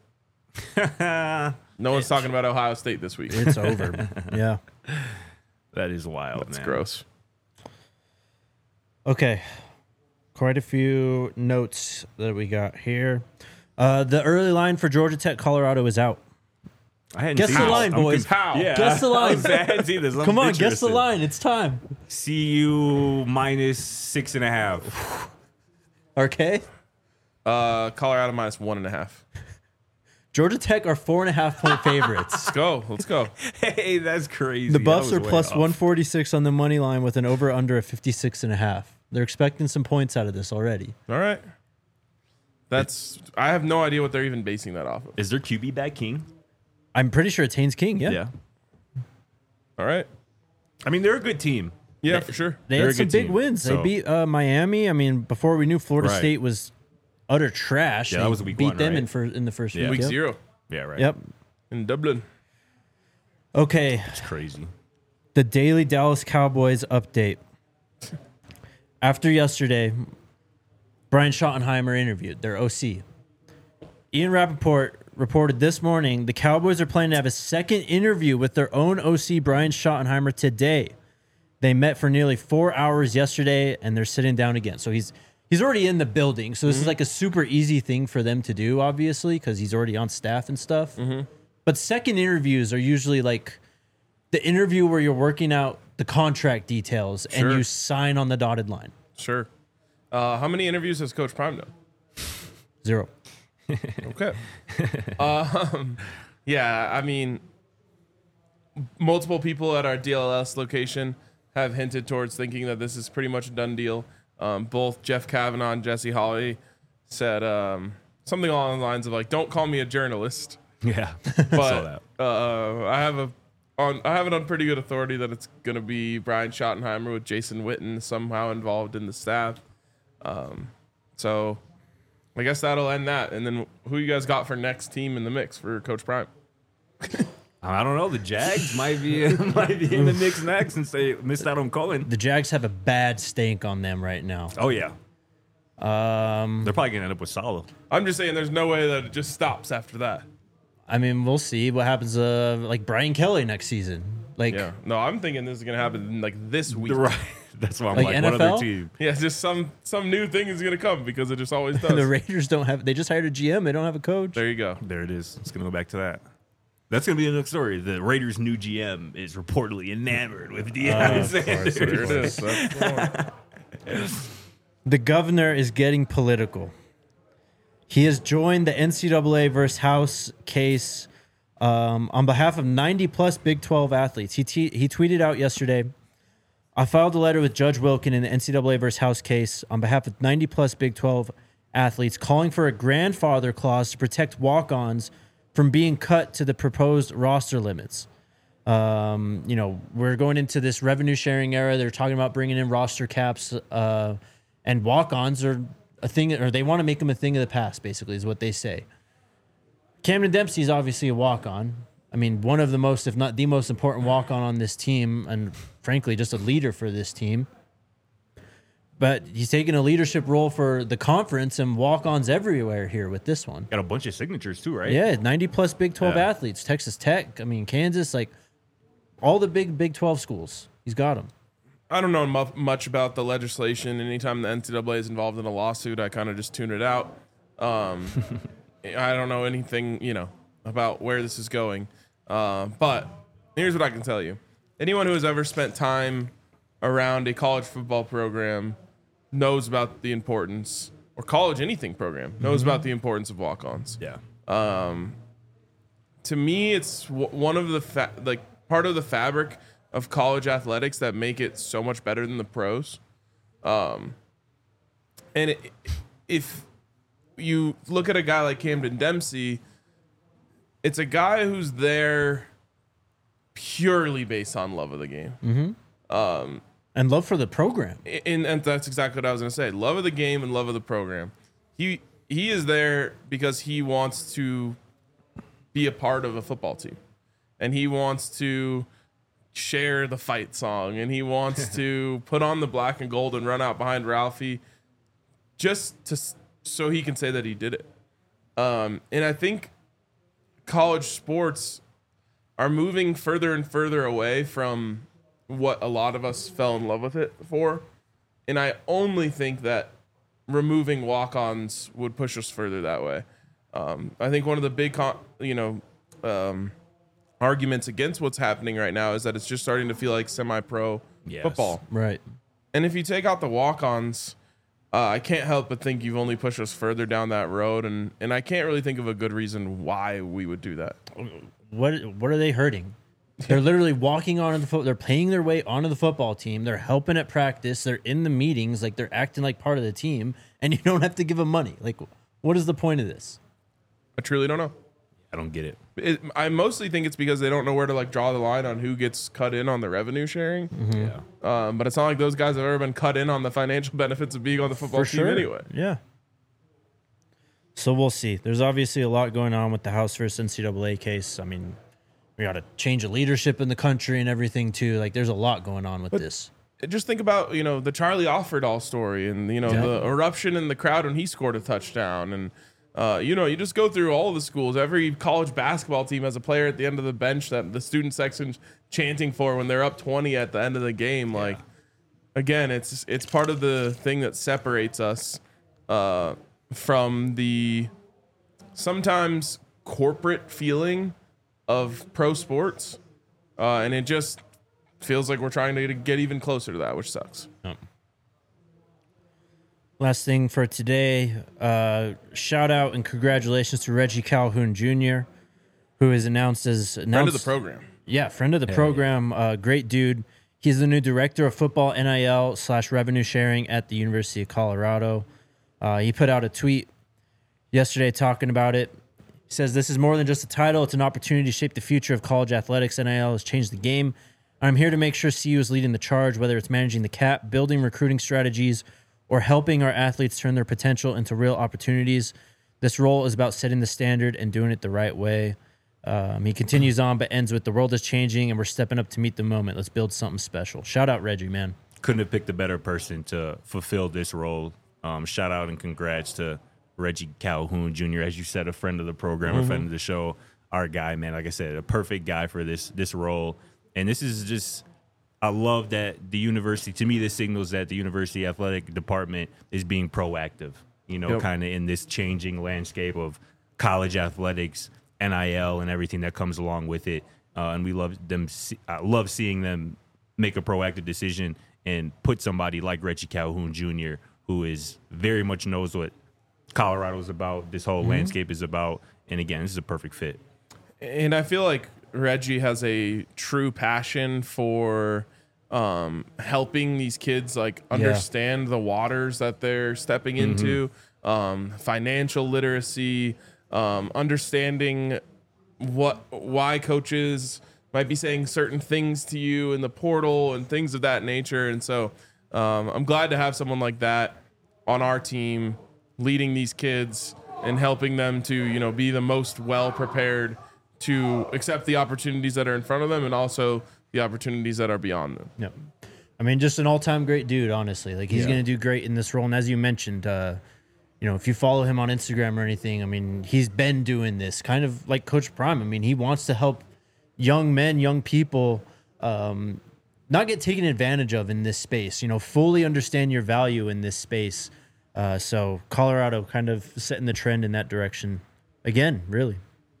No one's talking about Ohio State this week. It's over. Yeah. That is wild, That's man. gross. Okay. Quite a few notes that we got here. Uh, the early line for Georgia Tech, Colorado is out. I hadn't Guess seen the this. line, I'm boys. conf- How? Yeah. Guess the line. I was- I hadn't seen this. I'm Come on, guess the interested. line. It's time. C U minus six and a half. Okay. Uh, Colorado minus one and a half. Georgia Tech are four and a half point favorites. Let's go. Let's go. Hey, that's crazy. The That Buffs was are way plus off. one forty-six on the money line with an over under of fifty-six and a half. They're expecting some points out of this already. All right. That's. I have no idea what they're even basing that off of. Is their Q B back King? I'm pretty sure it's Haynes King. Yeah. All right. I mean, they're a good team. Yeah, for sure. They They're had a some good big team, wins. so- They beat uh, Miami. I mean, before we knew Florida Right. State was utter trash. Yeah, they that was week beat one, them right? in, fir- in the first Yeah. week. Week Yep. zero Yeah, right. Yep. in Dublin. Okay. It's crazy. The Daily Dallas Cowboys update. After yesterday, Brian Schottenheimer interviewed their O C. Ian Rappaport reported this morning the Cowboys are planning to have a second interview with their own O C, Brian Schottenheimer, today. They met for nearly four hours yesterday, and they're sitting down again. So he's he's already in the building. So this Mm-hmm. is like a super easy thing for them to do, obviously, because he's already on staff and stuff. Mm-hmm. But second interviews are usually like the interview where you're working out the contract details Sure. and you sign on the dotted line. Sure. Uh, how many interviews has Coach Prime done? Zero. Okay. um, yeah, I mean, multiple people at our D L S location have hinted towards thinking that this is pretty much a done deal. Um, both Jeff Kavanaugh and Jesse Holley said um, something along the lines of like, "Don't call me a journalist." Yeah. I saw But that. uh, I have a on I have it on pretty good authority that it's going to be Brian Schottenheimer with Jason Witten somehow involved in the staff. Um, so I guess that'll end that. And then who you guys got for next team in the mix for Coach Prime? I don't know. The Jags might be might be in the mix next since they missed out on Cullen. The Jags have a bad stank on them right now. Oh yeah, Um, they're probably gonna end up with Salah. I'm just saying there's no way that it just stops after that. I mean, we'll see what happens. Uh, like Brian Kelly next season. Like, Yeah. No, I'm thinking this is going to happen like this week. Right. That's why I'm Like like, N what F L? other team? Yeah, just some some new thing is going to come because it just always the does. Raiders don't have. They just hired a G M. They don't have a coach. There you go. There it is. It's gonna go back to that. That's gonna be the next story. The Raiders' new G M is reportedly enamored with Deion Sanders. There it is. That's the one. The governor is getting political. He has joined the N C double A versus House case um, on behalf of ninety plus Big twelve athletes. He te- he tweeted out yesterday, I filed a letter with Judge Wilkin in the N C double A versus House case on behalf of ninety plus Big twelve athletes, calling for a grandfather clause to protect walk-ons from being cut to the proposed roster limits. Um, you know, we're going into this revenue sharing era. They're talking about bringing in roster caps, uh, and walk-ons are a thing, or they want to make them a thing of the past, basically, is what they say. Camden Dempsey is obviously a walk-on. I mean, one of the most, if not the most important walk-on on this team, and frankly, just a leader for this team. But he's taking a leadership role for the conference and walk-ons everywhere here with this one. Got a bunch of signatures too, right? Yeah, ninety plus Big twelve Yeah. athletes. Texas Tech, I mean, Kansas, like all the big Big twelve schools. He's got them. I don't know mu- much about the legislation. Anytime the N C double A is involved in a lawsuit, I kind of just tune it out. Um, I don't know anything, you know, about where this is going. Uh, but here's what I can tell you. Anyone who has ever spent time around a college football program knows about the importance, or college anything program, knows about the importance of walk-ons. Yeah. To me, it's w- one of the fa- like part of the fabric of college athletics that make it so much better than the pros. Um, and it, if you look at a guy like Camden Dempsey, it's a guy who's there purely based on love of the game. And love for the program. And, and that's exactly what I was going to say. Love of the game and love of the program. He he is there because he wants to be a part of a football team. And he wants to share the fight song. And he wants to put on the black and gold and run out behind Ralphie just to so he can say that he did it. Um, and I think college sports are moving further and further away from what a lot of us fell in love with it for. And I only think that removing walk-ons would push us further that way. Um, I think one of the big, con- you know, um, arguments against what's happening right now is that it's just starting to feel like semi-pro Yes. football. Right. And if you take out the walk-ons, uh, I can't help but think you've only pushed us further down that road. And, and I can't really think of a good reason why we would do that. What what are they hurting? They're literally walking onto the foot. They're paying their way onto the football team. They're helping at practice. They're in the meetings. Like they're acting like part of the team, and you don't have to give them money. Like, what is the point of this? I truly don't know. I don't get it. It, I mostly think it's because they don't know where to like draw the line on who gets cut in on the revenue sharing. Mm-hmm. Yeah. Um, but it's not like those guys have ever been cut in on the financial benefits of being on the football For team sure. anyway. Yeah. So we'll see. There's obviously a lot going on with the House versus N C double A case. I mean, we got to change of leadership in the country and everything too. Like, there's a lot going on with this. Just think about, you know, the Charlie Offerdahl story and, you know, Yeah. the eruption in the crowd when he scored a touchdown. And, uh, you know, you just go through all the schools. Every college basketball team has a player at the end of the bench that the student section's chanting for when they're up twenty at the end of the game. Like, again, it's it's part of the thing that separates us uh, from the sometimes corporate feeling of pro sports. Uh, and it just feels like we're trying to get even closer to that, which sucks. Yep. Last thing for today, uh, shout out and congratulations to Reggie Calhoun Junior, who is announced as announced, Friend of the program. Yeah, friend of the program. Uh, great dude. He's the new director of football N I L slash revenue sharing at the University of Colorado. Uh, he put out a tweet yesterday talking about it. He says, "This is more than just a title. It's an opportunity to shape the future of college athletics. N I L has changed the game. I'm here to make sure C U is leading the charge, whether it's managing the cap, building recruiting strategies, or helping our athletes turn their potential into real opportunities. This role is about setting the standard and doing it the right way." Um, he continues on, but ends with, "The world is changing, and we're stepping up to meet the moment. Let's build something special." Shout out Reggie, man. Couldn't have picked a better person to fulfill this role. Um, shout out and congrats to Reggie Calhoun Junior As you said, a friend of the program, Mm-hmm. a friend of the show, our guy, man. Like I said, a perfect guy for this this role. And this is just, I love that the university, to me, this signals that the university athletic department is being proactive, you know, Yep. kind of in this changing landscape of college athletics, N I L, and everything that comes along with it. Uh, and we love them. See, I love seeing them make a proactive decision and put somebody like Reggie Calhoun Junior, who is very much knows what Colorado's about, this whole landscape is about. And again, this is a perfect fit. And I feel like Reggie has a true passion for um, helping these kids like understand the waters that they're stepping into, um, financial literacy, um, understanding what why coaches might be saying certain things to you in the portal and things of that nature. And so um, I'm glad to have someone like that on our team leading these kids and helping them to, you know, be the most well prepared to accept the opportunities that are in front of them and also the opportunities that are beyond them. Yep. I mean, just an all-time great dude, honestly. Like, he's Yeah. going to do great in this role. And as you mentioned, uh, you know, if you follow him on Instagram or anything, I mean, he's been doing this kind of like Coach Prime. I mean, he wants to help young men, young people um, not get taken advantage of in this space, you know, fully understand your value in this space. Uh, so Colorado kind of setting the trend in that direction again, really.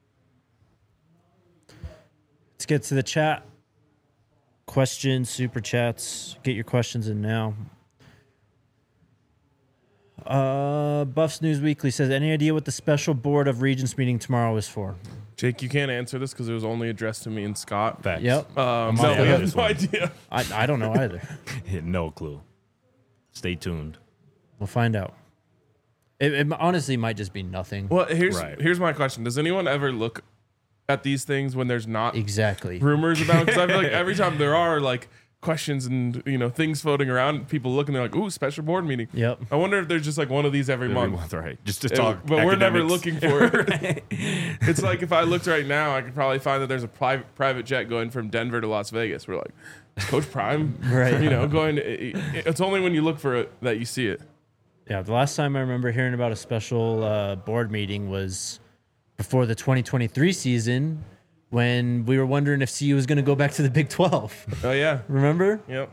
Let's get to the chat. Questions, super chats. Get your questions in now. Uh, Buffs News Weekly says, "Any idea what the special board of regents meeting tomorrow is for?" Jake, you can't answer this because it was only addressed to me and Scott. Facts. Yep. Um, on no, the we other have one. no idea. I, I don't know either. No clue. Stay tuned. We'll find out. It, it honestly might just be nothing. Well, here's Right. here's my question: does anyone ever look at these things when there's not Exactly. rumors about? Because I feel like every time there are like questions and you know things floating around, people look and they're like, "Ooh, special board meeting." Yep. I wonder if there's just like one of these every, Every month. month, right? Just to Yeah, talk. but we're never academics. looking for it. It's like if I looked right now, I could probably find that there's a private private jet going from Denver to Las Vegas. We're like, is Coach Prime, Right. You know, going. To, it- it's only when you look for it that you see it. Yeah, the last time I remember hearing about a special uh, board meeting was before the twenty twenty-three season when we were wondering if C U was going to go back to the Big twelve. Oh yeah, Remember? yep.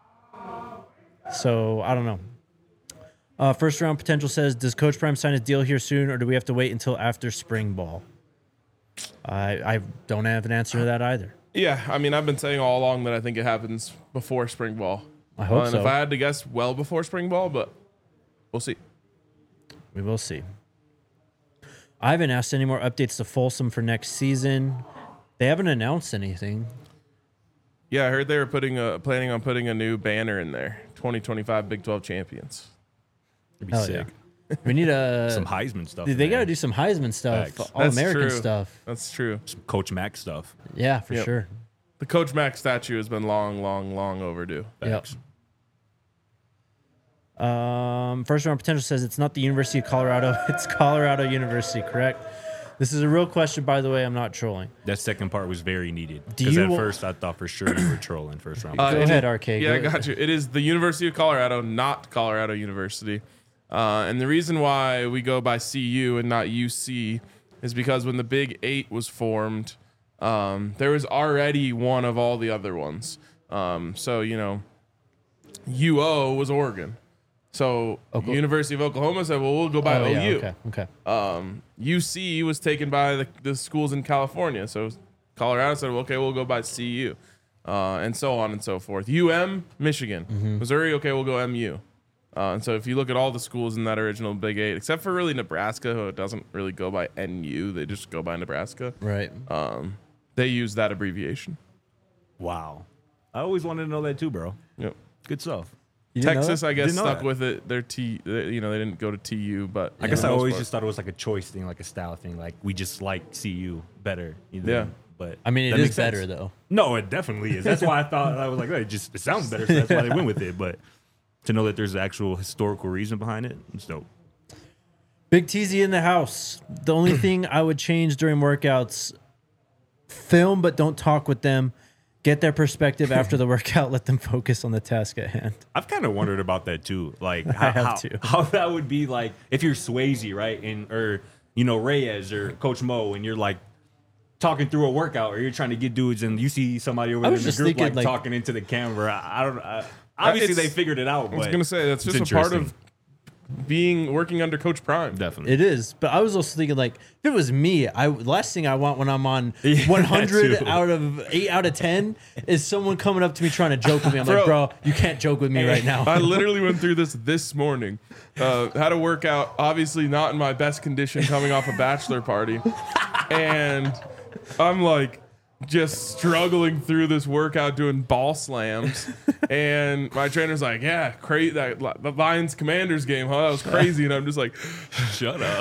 So I don't know. Uh, first round potential says, "Does Coach Prime sign his deal here soon, or do we have to wait until after spring ball?" I I don't have an answer to that either. Yeah, I mean, I've been saying all along that I think it happens before spring ball. I hope Uh, and so. if I had to guess, well before spring ball, but we'll see. We will see. I haven't asked any more updates to Folsom for next season. They haven't announced anything. Yeah, I heard they were putting a, planning on putting a new banner in there. twenty twenty-five Big twelve champions. It'd be Hell sick. yeah. We need a Some Heisman stuff. Dude, they man. got to do some Heisman stuff, Facts. all That's American true. stuff. That's true. Some Coach Mac stuff. Yeah, for Yep. sure. The Coach Mac statue has been long, long, long overdue. Yep. Facts. Um, first round potential says it's not the University of Colorado, it's Colorado University, correct? This is a real question, by the way. I'm not trolling. That second part was very needed. Do Because you at wa- first I thought for sure you were trolling first round. Uh, Go it ahead, is- R K. Yeah, I Go- got you. It is the University of Colorado, not Colorado University. Uh, and the reason why we go by C U and not U C is because when the Big Eight was formed, um, there was already one of all the other ones. Um, so, you know, U O was Oregon. So Okla- University of Oklahoma said, well, we'll go by Oh, O U. yeah, okay, okay. Um, U C was taken by the, the schools in California. So Colorado said, well, okay, we'll go by C U. Uh, and so on and so forth. U M, Michigan. Mm-hmm. Missouri, okay, we'll go M U. Uh, and so if you look at all the schools in that original Big Eight, except for really Nebraska, who doesn't really go by N U, they just go by Nebraska. Right. Um, they use that abbreviation. Wow. I always wanted to know that too, bro. Yep. Good stuff. You didn't know Texas, that? I guess, Didn't know stuck that. with it. They're T, they- you know, they didn't go to T U, but I guess for I the most always part. just thought it was like a choice thing, like a style thing. Like we just like C U better. You know? Yeah. But I mean, it that is makes sense. better, though. No, it definitely is. That's why I thought I was like, oh, it just it sounds better, so that's why they went with it. But to know that there's an actual historical reason behind it, it's dope. Big Teasy in the house. The only thing I would change during workouts, film but don't talk with them. Get their perspective after the workout. Let them focus on the task at hand. I've kind of wondered about that too. Like how, have how, too. how that would be like if you're Swayze, right? And or you know, Reyes or Coach Mo, and you're like talking through a workout or you're trying to get dudes and you see somebody over I there was in the just group thinking, like, like- talking into the camera. I, I don't I, obviously it's- they figured it out, I was but going to say, that's it's just a part of interesting. being working under Coach Prime. Definitely. It is, but I was also thinking like if it was me, I last thing I want when I'm on Yeah, one hundred too. out of eight out of ten is someone coming up to me trying to joke with me. I'm like, Bro. bro, you can't joke with me right now. I literally went through this this morning. Uh, had a workout, obviously not in my best condition, coming off a bachelor party, and I'm like just struggling through this workout doing ball slams. And my trainer's like, "Yeah, crazy that the Lions Commanders game, huh? That was crazy." And I'm just like, Shut up.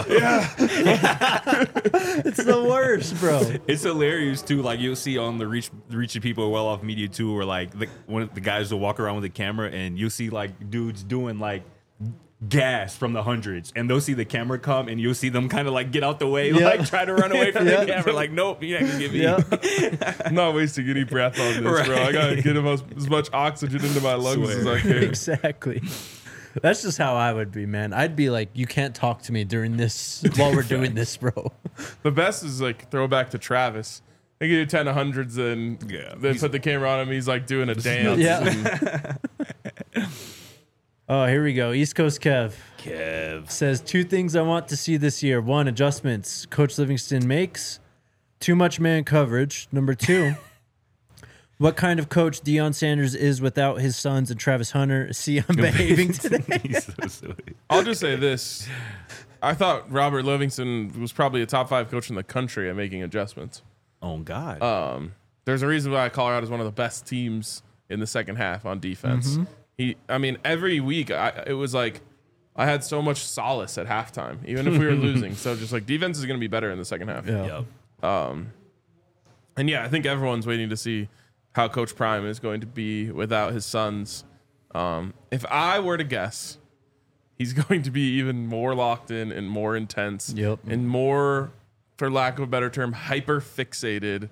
It's the worst, bro. It's hilarious too. Like you'll see on the reach reaching people well off media too, where like the, one of the guys will walk around with a camera and you'll see like dudes doing like gas from the hundreds, and they'll see the camera come and you'll see them kind of like get out the way, Yeah. like try to run away from Yeah. the camera. Like, nope, you're not gonna get me. Yeah. I'm not wasting any breath on this, bro. I gotta get as, as much oxygen into my lungs as I Swear. can. Exactly. That's just how I would be, man. I'd be like, you can't talk to me during this while we're doing this, bro. The best is like throwback to Travis. They get you ten of hundreds and Yeah. they He's- put the camera on him. He's like doing a dance. Yeah. and- Oh, here we go. East Coast Kev Kev. says two things I want to see this year. One, adjustments Coach Livingston makes. Too much man coverage. Number two, what kind of coach Deion Sanders is without his sons and Travis Hunter. See, I'm behaving today. He's so silly. I'll just say this. I thought Robert Livingston was probably a top five coach in the country at making adjustments. Oh God. Um, there's a reason why Colorado is one of the best teams in the second half on defense. Mm-hmm. He, I mean, every week I, it was like I had so much solace at halftime, even if we were losing. So just like defense is going to be better in the second half. Yeah. Yep. And yeah, I think everyone's waiting to see how Coach Prime is going to be without his sons. Um, if I were to guess, he's going to be even more locked in and more intense Yep. and more, for lack of a better term, hyper fixated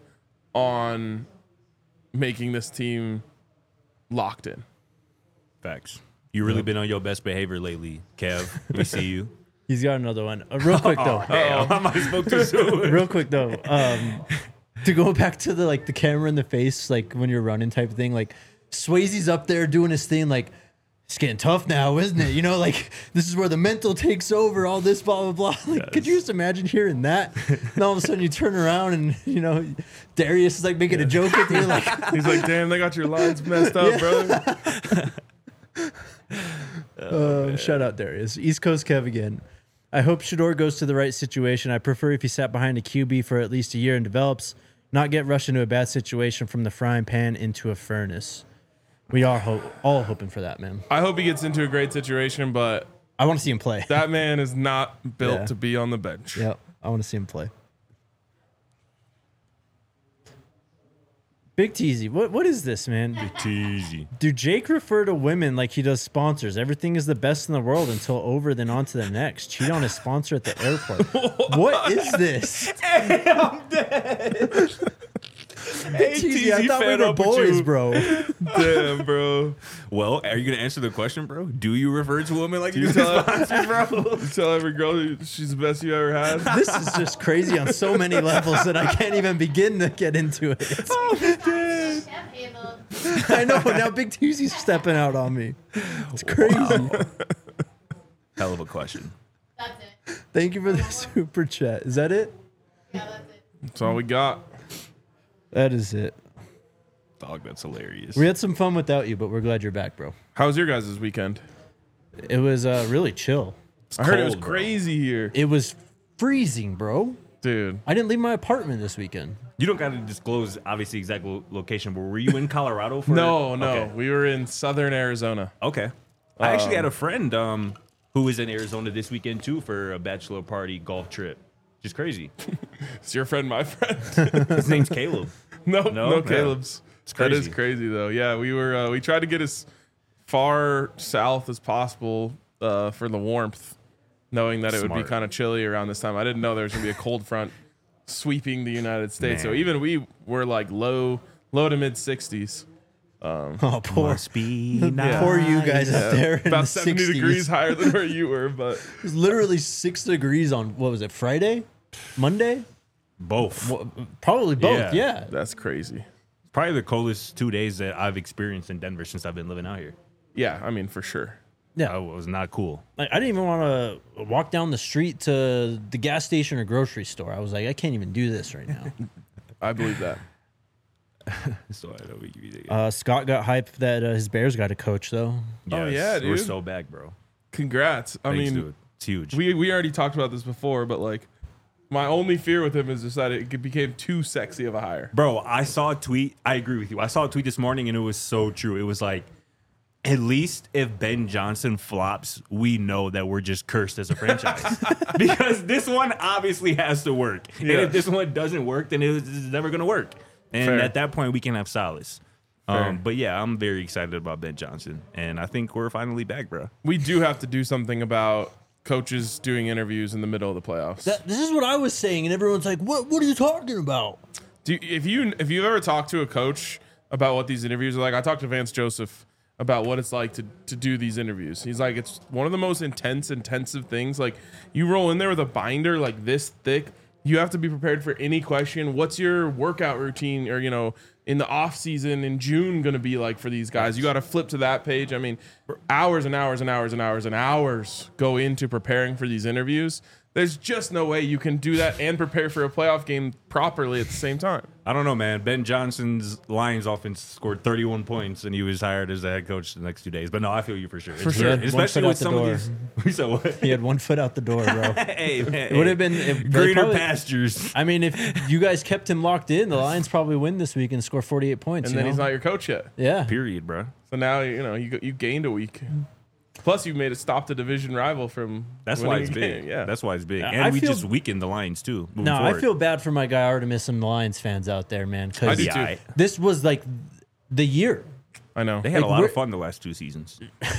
on making this team locked in. Facts. You really been on your best behavior lately, Kev. We see you. He's got another one. Uh, real quick, though. Damn, I might have spoke too soon. Real quick, though. Um, to go back to the like the camera in the face, like when you're running type of thing, like Swayze's up there doing his thing, like it's getting tough now, isn't it? You know, like this is where the mental takes over, all this blah blah blah. Like, could you just imagine hearing that? And all of a sudden you turn around and you know Darius is like making a joke with you, like He's like, damn, they got your lines messed up, brother. um, shout out Darius. East Coast Kev again. I hope Shador goes to the right situation. I prefer if he sat behind a Q B for at least a year and develops, not get rushed into a bad situation from the frying pan into a furnace. We are ho- all hoping for that, man. I hope he gets into a great situation, but I want to see him play. That man is not built Yeah. to be on the bench. Yeah, I want to see him play. Big Teasy, what what is this, man? It's easy. Dude, Jake refer to women like he does sponsors. Everything is the best in the world until over, then on to the next. Cheat on his sponsor at the airport. What is this? Hey, I'm dead. Hey, Teasy, I Teasy, thought we fed were up with boys, you. bro. Damn, bro. Well, are you gonna answer the question, bro? Do you refer to women like you You do tell, sponsors, bro? you tell every girl she's the best you ever had. This is just crazy on so many levels that I can't even begin to get into it. Chef handled. I know, now Big Teasy's stepping out on me. It's crazy. Hell of a question. That's it. Thank you for the super chat. Is that it? Yeah, that's it. That's all we got. That is it. Dog, that's hilarious. We had some fun without you, but we're glad you're back, bro. How was your guys' weekend? It was uh, really chill. I heard it was cold, bro. crazy here. It was freezing, bro. Dude. I didn't leave my apartment this weekend. You don't got to disclose, obviously, exact lo- location, but were you in Colorado for No, no. Okay. We were in southern Arizona. Okay. I actually had a friend um, who was in Arizona this weekend, too, for a bachelor party golf trip. Just crazy. Is your friend my friend? His name's Caleb. no, No? no, Yeah. Caleb's. It's That is crazy. crazy though. Yeah, we were uh, we tried to get as far south as possible uh, for the warmth, knowing that it would be Smart. kind of chilly around this time. I didn't know there was gonna be a cold front sweeping the United States. So Man. even we were like low, low to mid sixties. Oh, poor, Must be poor you guys out there in About the seventy sixties. degrees higher than where you were, but It was literally six degrees on, what was it, Friday? Monday? Both. Well, probably both, Yeah. yeah. that's crazy. Probably the coldest two days that I've experienced in Denver since I've been living out here. Yeah, I mean for sure. Yeah. That was not cool. Like, I didn't even want to walk down the street to the gas station or grocery store. I was like, I can't even do this right now. I believe that. So I know we give you the- uh, Scott got hyped that uh, his Bears got a coach, though. Oh, yeah, We're dude. so back, bro. Congrats. I Thanks, mean, dude. It's huge. we we already talked about this before, but like, my only fear with him is just that it became too sexy of a hire. Bro, I saw a tweet. I agree with you. I saw a tweet this morning and it was so true. It was like, at least if Ben Johnson flops, we know that we're just cursed as a franchise. Because this one obviously has to work. Yeah. And if this one doesn't work, then it's never going to work. And Fair. at that point, we can have solace. Fair. Um, but yeah, I'm very excited about Ben Johnson. And I think we're finally back, bro. We do have to do something about coaches doing interviews in the middle of the playoffs. That, this is what I was saying, and everyone's like, "What? What are you talking about?" Do you, if you if you've ever talked to a coach about what these interviews are like, I talked to Vance Joseph about what it's like to to do these interviews. He's like, it's one of the most intense, intensive things. Like, you roll in there with a binder like this thick. You have to be prepared for any question. What's your workout routine, or you know, in the off season in June going to be like for these guys? You got to flip to that page. I mean, hours and hours and hours and hours and hours go into preparing for these interviews. There's just no way you can do that and prepare for a playoff game properly at the same time. I don't know, man. Ben Johnson's Lions offense scored thirty-one points, and he was hired as the head coach the next two days. But no, I feel you for sure. For sure. Especially One with foot out some the of these. We said what? He had one foot out the door, bro. Hey, man. It would have been it, they greener probably- pastures. I mean, if you guys kept him locked in, the Lions probably win this week and score forty-eight points. And you then know? he's not your coach yet. yeah. Period, bro. So now you know you you gained a week. Plus, you made it stop the division rival from. That's winning why it's a big. game. Yeah, That's why it's big. I And we feel- just weakened the Lions too. moving No, I forward. feel bad for my guy Artemis and the Lions fans out there, man. I Because do Yeah, too. I- this was like the year. I know. They had Like, a lot we're- of fun the last two seasons.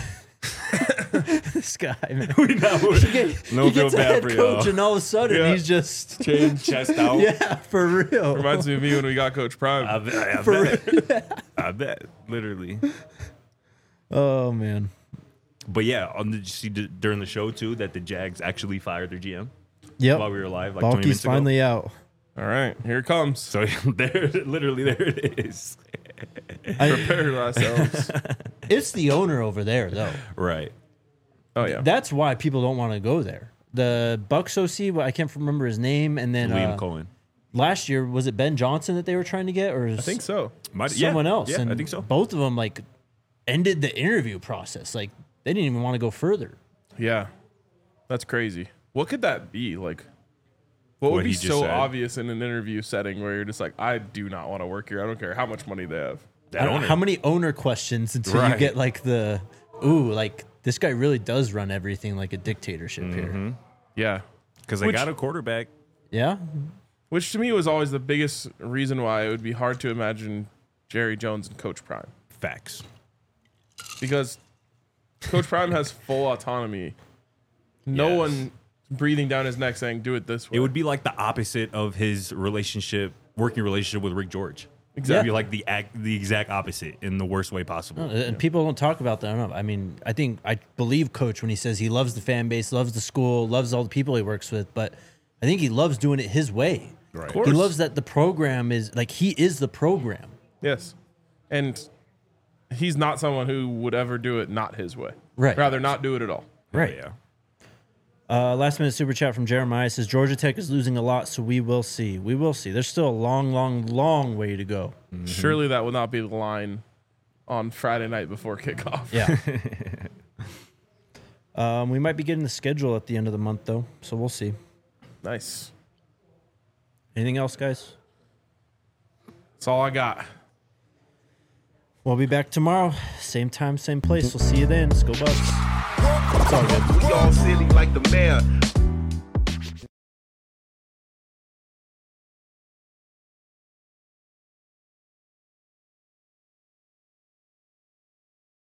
This guy, man. we know. He, get, No he feel gets a bad head for coach, y'all. and all of a sudden Yeah. he's just Chin, chest out. yeah, for real. Reminds me of me when we got Coach Prime. I bet. I For bet. I bet. Literally. Oh man. But yeah, on the, did you see d- during the show too that the Jags actually fired their G M Yep. while we were live, like twenty Balky's minutes ago. finally out. All right, here it comes. So there, literally, there it is. I- Prepare ourselves. it's the owner over there, though. Right. Oh yeah. That's why people don't want to go there. The Bucks O C, well, I can't remember his name, and then Liam uh, Cohen. last year was it Ben Johnson that they were trying to get, or I think so. Might, yeah, someone else? Yeah, and I think so. Both of them like ended the interview process. Like they didn't even want to go further. Yeah, that's crazy. What could that be like? What would What be he just so said. obvious in an interview setting where you're just like, I do not want to work here. I don't care how much money they have. That I don't know owner. how many owner questions until you Right. get like the ooh, like this guy really does run everything like a dictatorship Mm-hmm. here. Yeah. Because they Which- got a quarterback. Yeah, Which to me was always the biggest reason why it would be hard to imagine Jerry Jones and Coach Prime. Facts. Because Coach Prime has full autonomy. No Yes. one breathing down his neck saying, do it this way. It would be like the opposite of his relationship, working relationship with Rick George. Exactly. It'd be like the act, the exact opposite in the worst way possible. Uh, and people don't talk about that enough. I mean, I think I believe Coach when he says he loves the fan base, loves the school, loves all the people he works with, but I think he loves doing it his way. Right. Of He course. loves that the program is like he is the program. Yes. And he's not someone who would ever do it not his way. Right. Rather not do it at all. Right. Yeah. Uh, last minute super chat from Jeremiah says Georgia Tech is losing a lot, so we will see. We will see. There's still a long, long, long way to go. Surely that will not be the line on Friday night before kickoff. Yeah. um, we might be getting the schedule at the end of the month though, so we'll see. Nice. Anything else, guys? That's all I got. We'll be back tomorrow, same time, same place. We'll see you then. Let's go Bucks. It's all good. We all silly like the mayor.